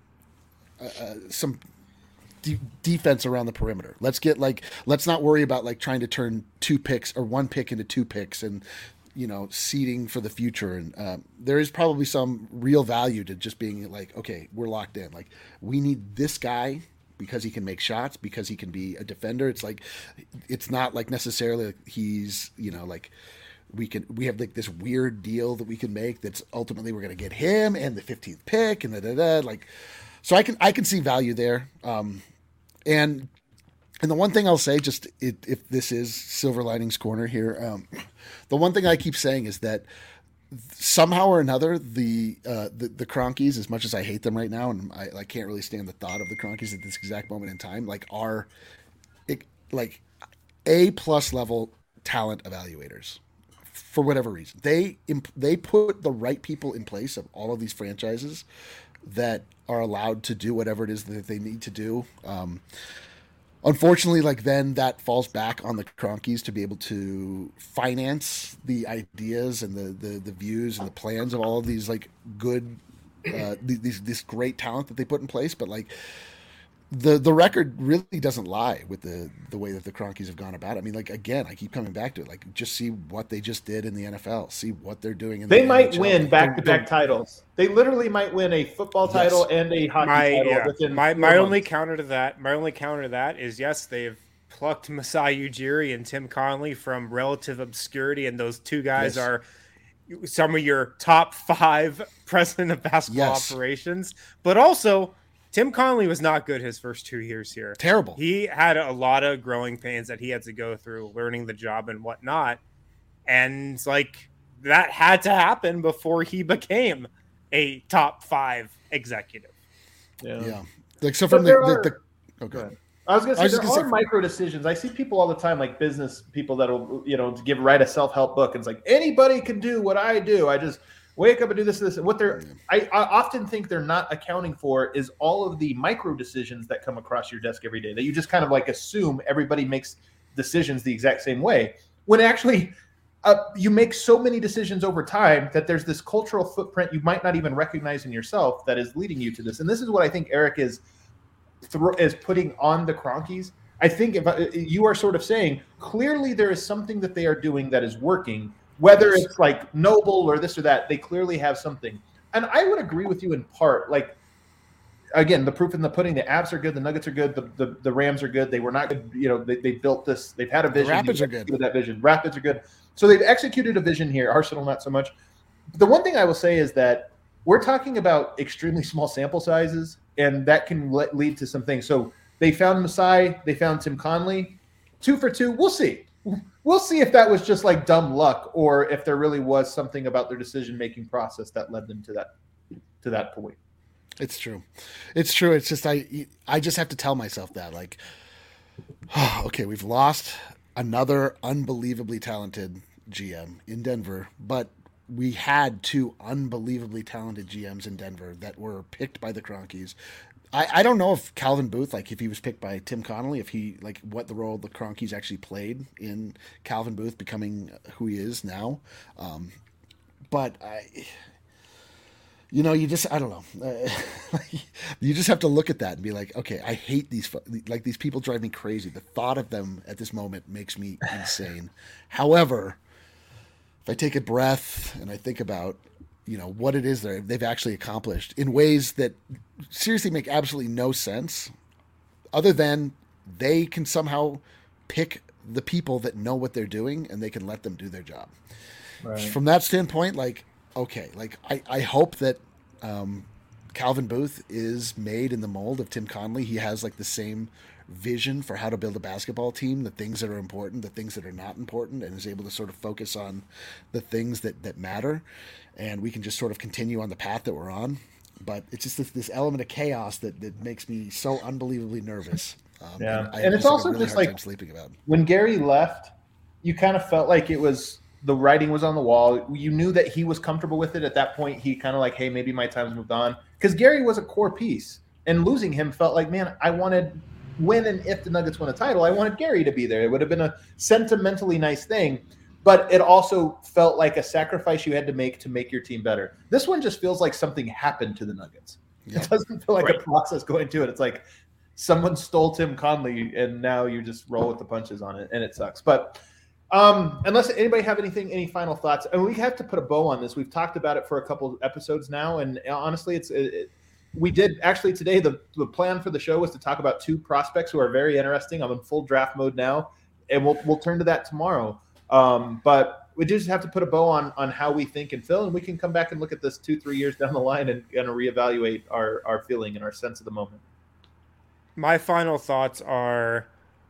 uh, uh, some de- defense around the perimeter. Let's get like let's not worry about like trying to turn two picks or one pick into two picks and you know seeding for the future. And um, there is probably some real value to just being like, okay, we're locked in. Like we need this guy because he can make shots, because he can be a defender. It's like, it's not like necessarily like he's, you know, like we can, we have like this weird deal that we can make that's ultimately we're going to get him and the fifteenth pick and da, da, da, like, so I can, I can see value there. Um, and, and the one thing I'll say, just it, if this is Silver Linings Corner here, um, the one thing I keep saying is that somehow or another, the, uh, the the Cronkies, as much as I hate them right now, and I, I can't really stand the thought of the Cronkies at this exact moment in time, like are it, like A plus level talent evaluators for whatever reason. They they put the right people in place of all of these franchises that are allowed to do whatever it is that they need to do. Um, Unfortunately, like then that falls back on the Cronkies to be able to finance the ideas and the, the, the views and the plans of all of these like good, uh, these this great talent that they put in place. But like the the record really doesn't lie with the the way that the Cronkies have gone about it. I mean, like again, I keep coming back to it. Like just see what they just did in the N F L. See what they're doing in the they might N H L. win back to back titles. They literally might win a football title yes. and a hockey my, title yeah. within my my only months. counter to that. My only counter to that is yes, they've plucked Masai Ujiri and Tim Connelly from relative obscurity, and those two guys yes. are some of your top five president of basketball yes. operations. But also, Tim Connelly was not good his first two years here. Terrible. He had a lot of growing pains that he had to go through, learning the job and whatnot. And like that had to happen before he became a top five executive. Yeah. yeah. Like, so from the, are, the, the, okay. Go I was going to say, there are say, micro decisions. I see people all the time, like business people that'll, you know, give, write a self-help book. And it's like, anybody can do what I do. I just wake up and do this and this. And what they're, I, I often think they're not accounting for is all of the micro decisions that come across your desk every day that you just kind of like assume everybody makes decisions the exact same way. When actually uh, you make so many decisions over time that there's this cultural footprint you might not even recognize in yourself that is leading you to this. And this is what I think Eric is, is putting on the Kroenkes. I think if you are sort of saying, clearly there is something that they are doing that is working. Whether it's like Noble or this or that, they clearly have something. And I would agree with you in part. Like, again, the proof in the pudding, the Avs are good, the Nuggets are good, the the, the Rams are good. They were not good. You know, they, they built this. They've had a vision. The Rapids are good. That vision. Rapids are good. So they've executed a vision here. Arsenal, not so much. The one thing I will say is that we're talking about extremely small sample sizes, and that can le- lead to some things. So they found Masai. They found Tim Connelly. Two for two. We'll see. We'll see if that was just like dumb luck or if there really was something about their decision-making process that led them to that to that point. It's true. It's true. It's just I I just have to tell myself that, like, oh, okay, we've lost another unbelievably talented G M in Denver, but we had two unbelievably talented G Ms in Denver that were picked by the Kroenkes. I, I don't know if Calvin Booth, like if he was picked by Tim Connelly, if he like what the role the Kroenkes actually played in Calvin Booth becoming who he is now. Um, but I, you know, you just I don't know. Uh, you just have to look at that and be like, okay, I hate these like these people drive me crazy. The thought of them at this moment makes me insane. However, if I take a breath and I think about, you know, what it is that they've actually accomplished in ways that seriously make absolutely no sense, other than they can somehow pick the people that know what they're doing and they can let them do their job. Right. From that standpoint, like, okay, like I, I hope that um, Calvin Booth is made in the mold of Tim Connelly. He has like the same vision for how to build a basketball team, the things that are important, the things that are not important, and is able to sort of focus on the things that, that matter. And we can just sort of continue on the path that we're on. But it's just this, this element of chaos that, that makes me so unbelievably nervous. Um, yeah. And, I and it's just also really just like sleeping about. When Gary left, you kind of felt like it was the writing was on the wall. You knew that he was comfortable with it. At that point, he kind of like, hey, maybe my time's moved on. Because Gary was a core piece. And losing him felt like, man, I wanted when and if the Nuggets win a title, I wanted Gary to be there. It would have been a sentimentally nice thing. But it also felt like a sacrifice you had to make to make your team better. This one just feels like something happened to the Nuggets. Yep. It doesn't feel like right. a process going to it. It's like someone stole Tim Connelly, and now you just roll with the punches on it, and it sucks. But um, unless anybody have anything, any final thoughts, and we have to put a bow on this. We've talked about it for a couple of episodes now, and honestly, it's it, it, we did actually today. The, the plan for the show was to talk about two prospects who are very interesting. I'm in full draft mode now, and we'll we'll turn to that tomorrow. Um, but we just have to put a bow on on how we think and feel, and we can come back and look at this two, three years down the line and, and reevaluate our, our feeling and our sense of the moment. My final thoughts are,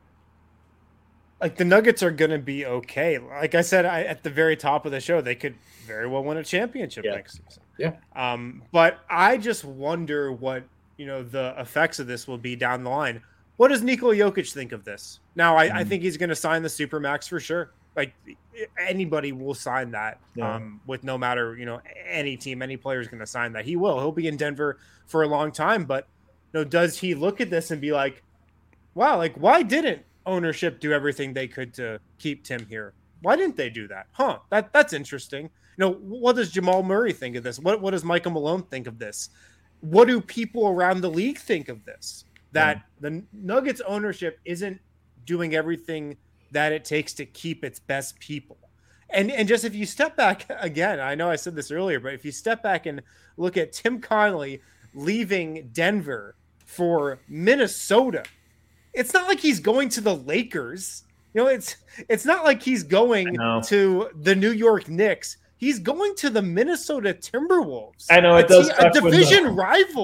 like, the Nuggets are going to be okay. Like I said, I, at the very top of the show, they could very well win a championship yeah. next season. Yeah. Um, but I just wonder what, you know, the effects of this will be down the line. What does Nikola Jokic think of this? Now, I, mm. I think he's going to sign the Supermax for sure. Like, anybody will sign that yeah. um, with no matter, you know, any team, any player is going to sign that. He will. He'll be in Denver for a long time. But, you know, does he look at this and be like, wow, like, why didn't ownership do everything they could to keep Tim here? Why didn't they do that? Huh, that that's interesting. You know, what does Jamal Murray think of this? What, what does Michael Malone think of this? What do people around the league think of this? That yeah. the Nuggets ownership isn't doing everything that it takes to keep its best people. And and just if you step back again, I know I said this earlier, but if you step back and look at Tim Connelly leaving Denver for Minnesota, it's not like he's going to the Lakers. You know, it's it's not like he's going to the New York Knicks. He's going to the Minnesota Timberwolves. I know it a does. T- a division rival.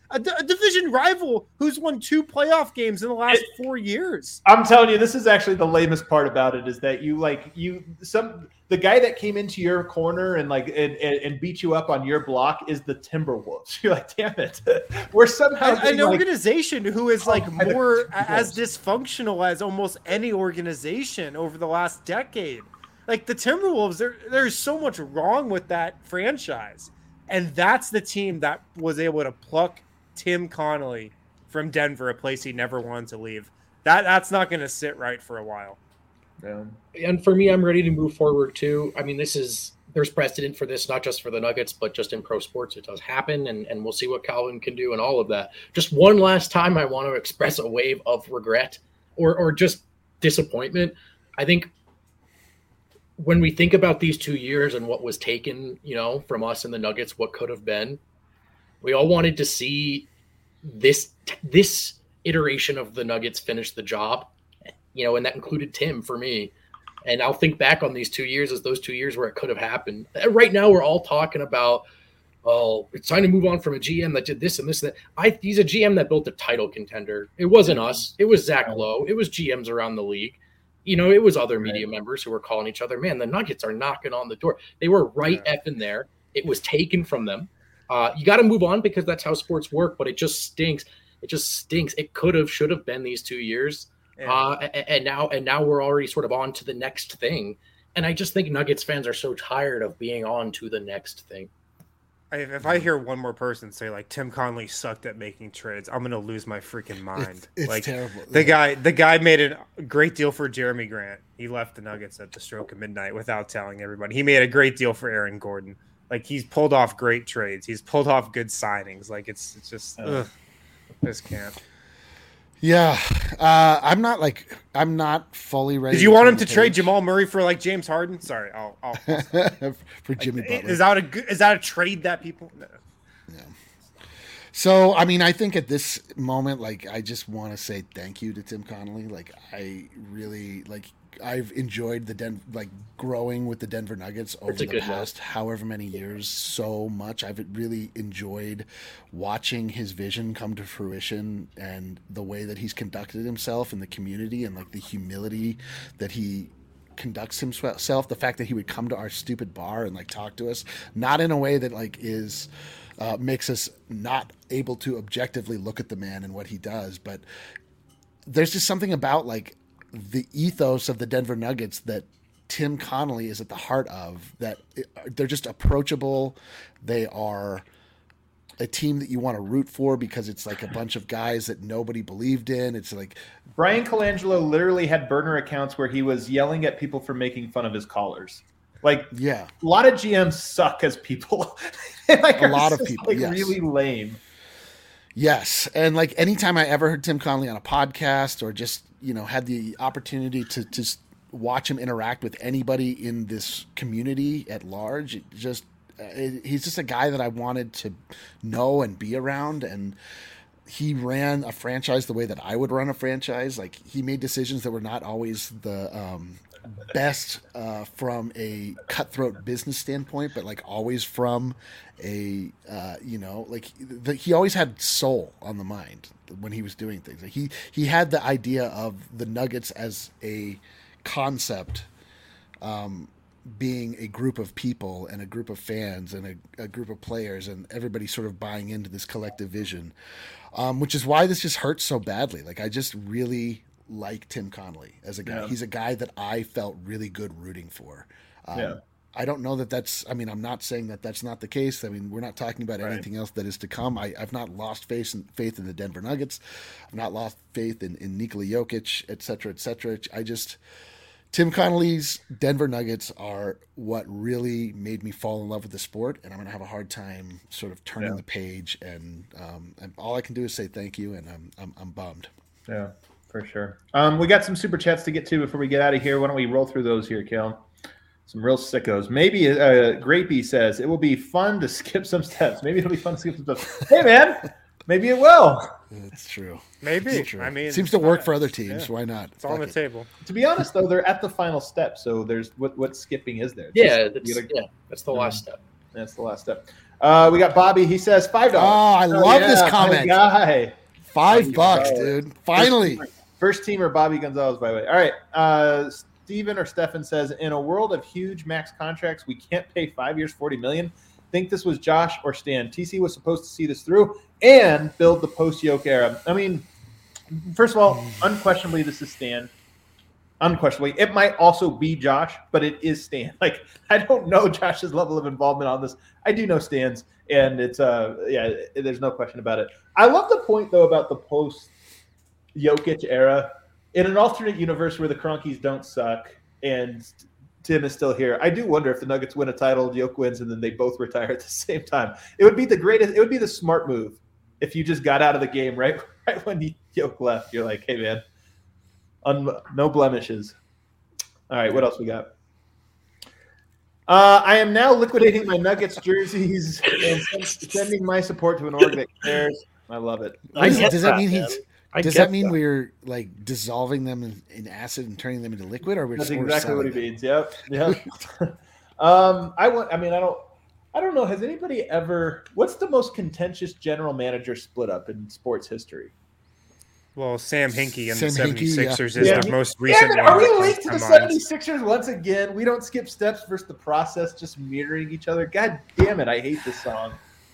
A, d- a division rival who's won two playoff games in the last four years. I'm telling you, this is actually the lamest part about it is that you like you some the guy that came into your corner and like and, and, and beat you up on your block is the Timberwolves. You're like, damn it, we're somehow an, an like, organization who is like oh, more as dysfunctional as almost any organization over the last decade. Like the Timberwolves, there there's so much wrong with that franchise, and that's the team that was able to pluck Tim Connolly from Denver, a place he never wanted to leave. That that's not going to sit right for a while. Yeah. And for me, I'm ready to move forward too. I mean, this is there's precedent for this, not just for the Nuggets, but just in pro sports. It does happen, and, and we'll see what Calvin can do and all of that. Just one last time, I want to express a wave of regret or or just disappointment. I think when we think about these two years and what was taken, you know, from us and the Nuggets, what could have been, we all wanted to see this this iteration of the Nuggets finish the job, you know, and that included Tim for me. And I'll think back on these two years as those two years where it could have happened. Right now, we're all talking about, oh, it's time to move on from a G M that did this and this and that. I, he's a G M that built a title contender. It wasn't us. It was Zach Lowe. It was G Ms around the league. You know, it was other media members who were calling each other, man, the Nuggets are knocking on the door. They were right yeah. effing there. It was taken from them. Uh, you got to move on because that's how sports work, but it just stinks. It just stinks. It could have, should have been these two years. Yeah. Uh, and, and now, and now we're already sort of on to the next thing. And I just think Nuggets fans are so tired of being on to the next thing. If I hear one more person say like Tim Connolly sucked at making trades, I'm gonna lose my freaking mind. It's, it's like, terrible. The guy, the guy made a great deal for Jeremy Grant. He left the Nuggets at the stroke of midnight without telling everybody. He made a great deal for Aaron Gordon. Like he's pulled off great trades. He's pulled off good signings. Like it's it's just, uh, ugh, I just can't. Yeah, uh, I'm not like I'm not fully ready. Did you want him to trade Jamal Murray for like James Harden? Sorry, I'll, I'll, I'll for Jimmy like, Butler. Is that a good, is that a trade that people? No. Yeah. So I mean, I think at this moment, like I just want to say thank you to Tim Connolly. Like I really like. I've enjoyed the Den like growing with the Denver Nuggets over the past note. however many years so much. I've really enjoyed watching his vision come to fruition and the way that he's conducted himself in the community and like the humility that he conducts himself. The fact that he would come to our stupid bar and like talk to us, not in a way that like is uh, makes us not able to objectively look at the man and what he does, but there's just something about like the ethos of the Denver Nuggets that Tim Connolly is at the heart of, that they're just approachable. They are a team that you want to root for because it's like a bunch of guys that nobody believed in. It's like Brian Colangelo literally had burner accounts where he was yelling at people for making fun of his callers. Like, yeah, a lot of G Ms suck as people. Like, a lot of people, like yes. really lame. Yes, and like anytime I ever heard Tim Connolly on a podcast or just, you know, had the opportunity to just watch him interact with anybody in this community at large, it just it, he's just a guy that I wanted to know and be around. And he ran a franchise the way that I would run a franchise. Like he made decisions that were not always the um, best uh, from a cutthroat business standpoint, but like always from a uh, you know, like the, he always had soul on the mind when he was doing things. Like he he had the idea of the Nuggets as a concept um, being a group of people and a group of fans and a, a group of players and everybody sort of buying into this collective vision, um, which is why this just hurts so badly. Like I just really like Tim Connolly as a guy. Yeah. He's a guy that I felt really good rooting for. Um, yeah. I don't know that that's, I mean, I'm not saying that that's not the case. I mean, we're not talking about right. anything else that is to come. I, I've not lost faith in, faith in the Denver Nuggets. I've not lost faith in, in Nikola Jokic, et cetera, et cetera. I just, Tim Connolly's Denver Nuggets are what really made me fall in love with the sport. And I'm going to have a hard time sort of turning yeah. the page. And, um, and all I can do is say thank you. And I'm, I'm, I'm bummed. Yeah, for sure. Um, we got some super chats to get to before we get out of here. Why don't we roll through those here, Kel? Some real sickos. Maybe uh, Grapey says it will be fun to skip some steps. Maybe it'll be fun to skip some steps. Hey, man, maybe it will. It's true. Maybe. It's true. I mean, it seems to work for other teams. Yeah. Why not? It's Fuck on the it. table. To be honest, though, they're at the final step. So there's what what skipping is there? Yeah, that's, gotta, yeah, that's the last step. That's the last step. Uh, we got Bobby. He says five Oh, dollars. I love yeah, this my comment. guy. Five Bobby bucks, Gonzalez. dude. Finally. First, first teamer Bobby Gonzalez, by the way. All right. Uh, Steven or Stefan says, in a world of huge max contracts, we can't pay five years, forty million dollars. Think this was Josh or Stan. T C was supposed to see this through and build the post-Yoke era. I mean, first of all, unquestionably, this is Stan. Unquestionably. It might also be Josh, but it is Stan. Like, I don't know Josh's level of involvement on this. I do know Stan's, and it's, uh, yeah, there's no question about it. I love the point, though, about the post-Jokic era. In an alternate universe where the Cronkies don't suck and Tim is still here, I do wonder if the Nuggets win a title, Yoke wins, and then they both retire at the same time. It would be the greatest. It would be the smart move if you just got out of the game right, right when Yoke left. You're like, hey, man, un- no blemishes. All right, what else we got? Uh, I am now liquidating my Nuggets jerseys and sending my support to an org that cares. I love it. I Does, get does that that, mean man. he's? I Does get that mean we're like dissolving them in, in acid and turning them into liquid, or we're That's just we're exactly what he selling them? means. Yep. Yep. um, I want. I mean, I don't. I don't know. Has anybody ever? What's the most contentious general manager split up in sports history? Well, Sam Hinkie and Sam the Hinkie, yeah. 76ers is Yeah. the most recent Damn it, one. are we that linked to comes the to mind. 76ers once again? We don't skip steps versus the process, just mirroring each other. God damn it! I hate this song.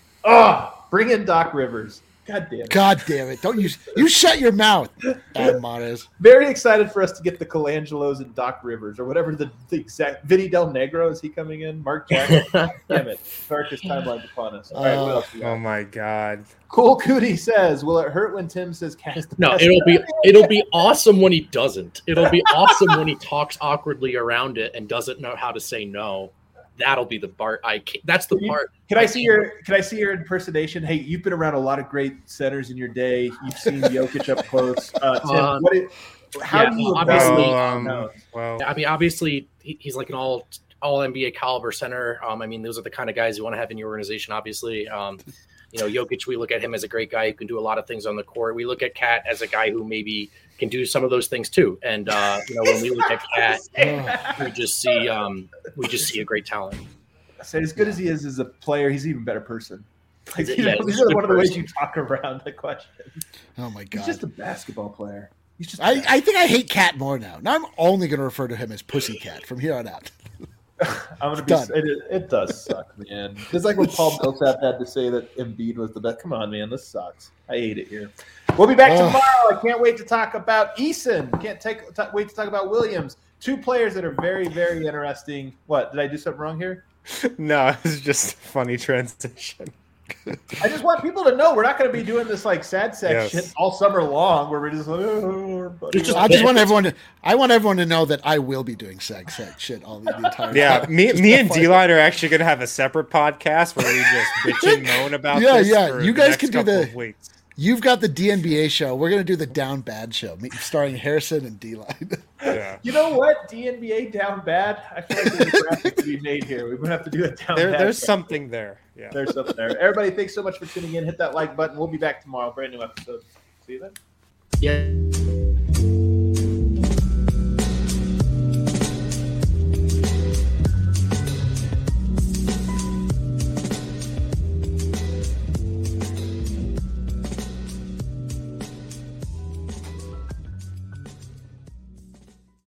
Oh, bring in Doc Rivers. God damn it. God damn it! Don't you you shut your mouth, Adam Mares. Very excited for us to get the Colangelos and Doc Rivers or whatever the, the exact. Vinny Del Negro, is he coming in? Mark Jackson. Damn it! Darkest timeline upon us. All right, what else we got? Oh my God. Cool Cootie says, "Will it hurt when Tim says Cat is the No, best?" it'll be it'll be awesome when he doesn't. It'll be awesome when he talks awkwardly around it and doesn't know how to say no. That'll be the part I can't, that's the Can you- part. Can I see your Can I see your impersonation? Hey, you've been around a lot of great centers in your day. You've seen Jokic up close. Uh, Tim, Um, what is, how yeah, do you obviously- Well, um, no. well, I mean, obviously, he- he's like an all all N B A caliber center. Um, I mean, those are the kind of guys you want to have in your organization. Obviously, um, you know, Jokic, we look at him as a great guy who can do a lot of things on the court. We look at Cat as a guy who maybe can do some of those things too. And uh, you know, when we look at Cat, we just see um, we just see a great talent. I said, as good as he is as a player, he's an even better person. Like, Yeah, you know, he's these a are good one of the ways person. you talk around the question. Oh my He's god! just a basketball player. He's just. I, I think I hate Cat more now. Now I'm only going to refer to him as Pussycat from here on out. I'm gonna be. Done. It, it does suck, man. It's like when Paul Millsap had to say that Embiid was the best. Come on, man, this sucks. I hate it here. We'll be back Ugh. tomorrow. I can't wait to talk about Eason. Can't take t- wait to talk about Williams. Two players that are very, very interesting. What did I do something wrong here? no, it's just a funny transition. I just want people to know we're not going to be doing this like sad sack Yes. shit all summer long, where we're just like, oh, buddy. It's just- I just want everyone to. I want everyone to know that I will be doing sex sex shit all the, the entire Yeah, time. me, Just me and F Y I. D-Line are actually going to have a separate podcast where we just bitch and moan about Yeah, this yeah, for you the guys next can do couple the- of weeks. You've got the D N B A show. We're gonna do the Down Bad show, me- starring Harrison and D Line. Yeah. You know what? D N B A down bad. I feel like there's a graphic to be made here. We're gonna have to do it down There, bad. there's something there. Yeah. There's something there. Everybody, thanks so much for tuning in. Hit that like button. We'll be back tomorrow. Brand new episode. See you then. Yeah.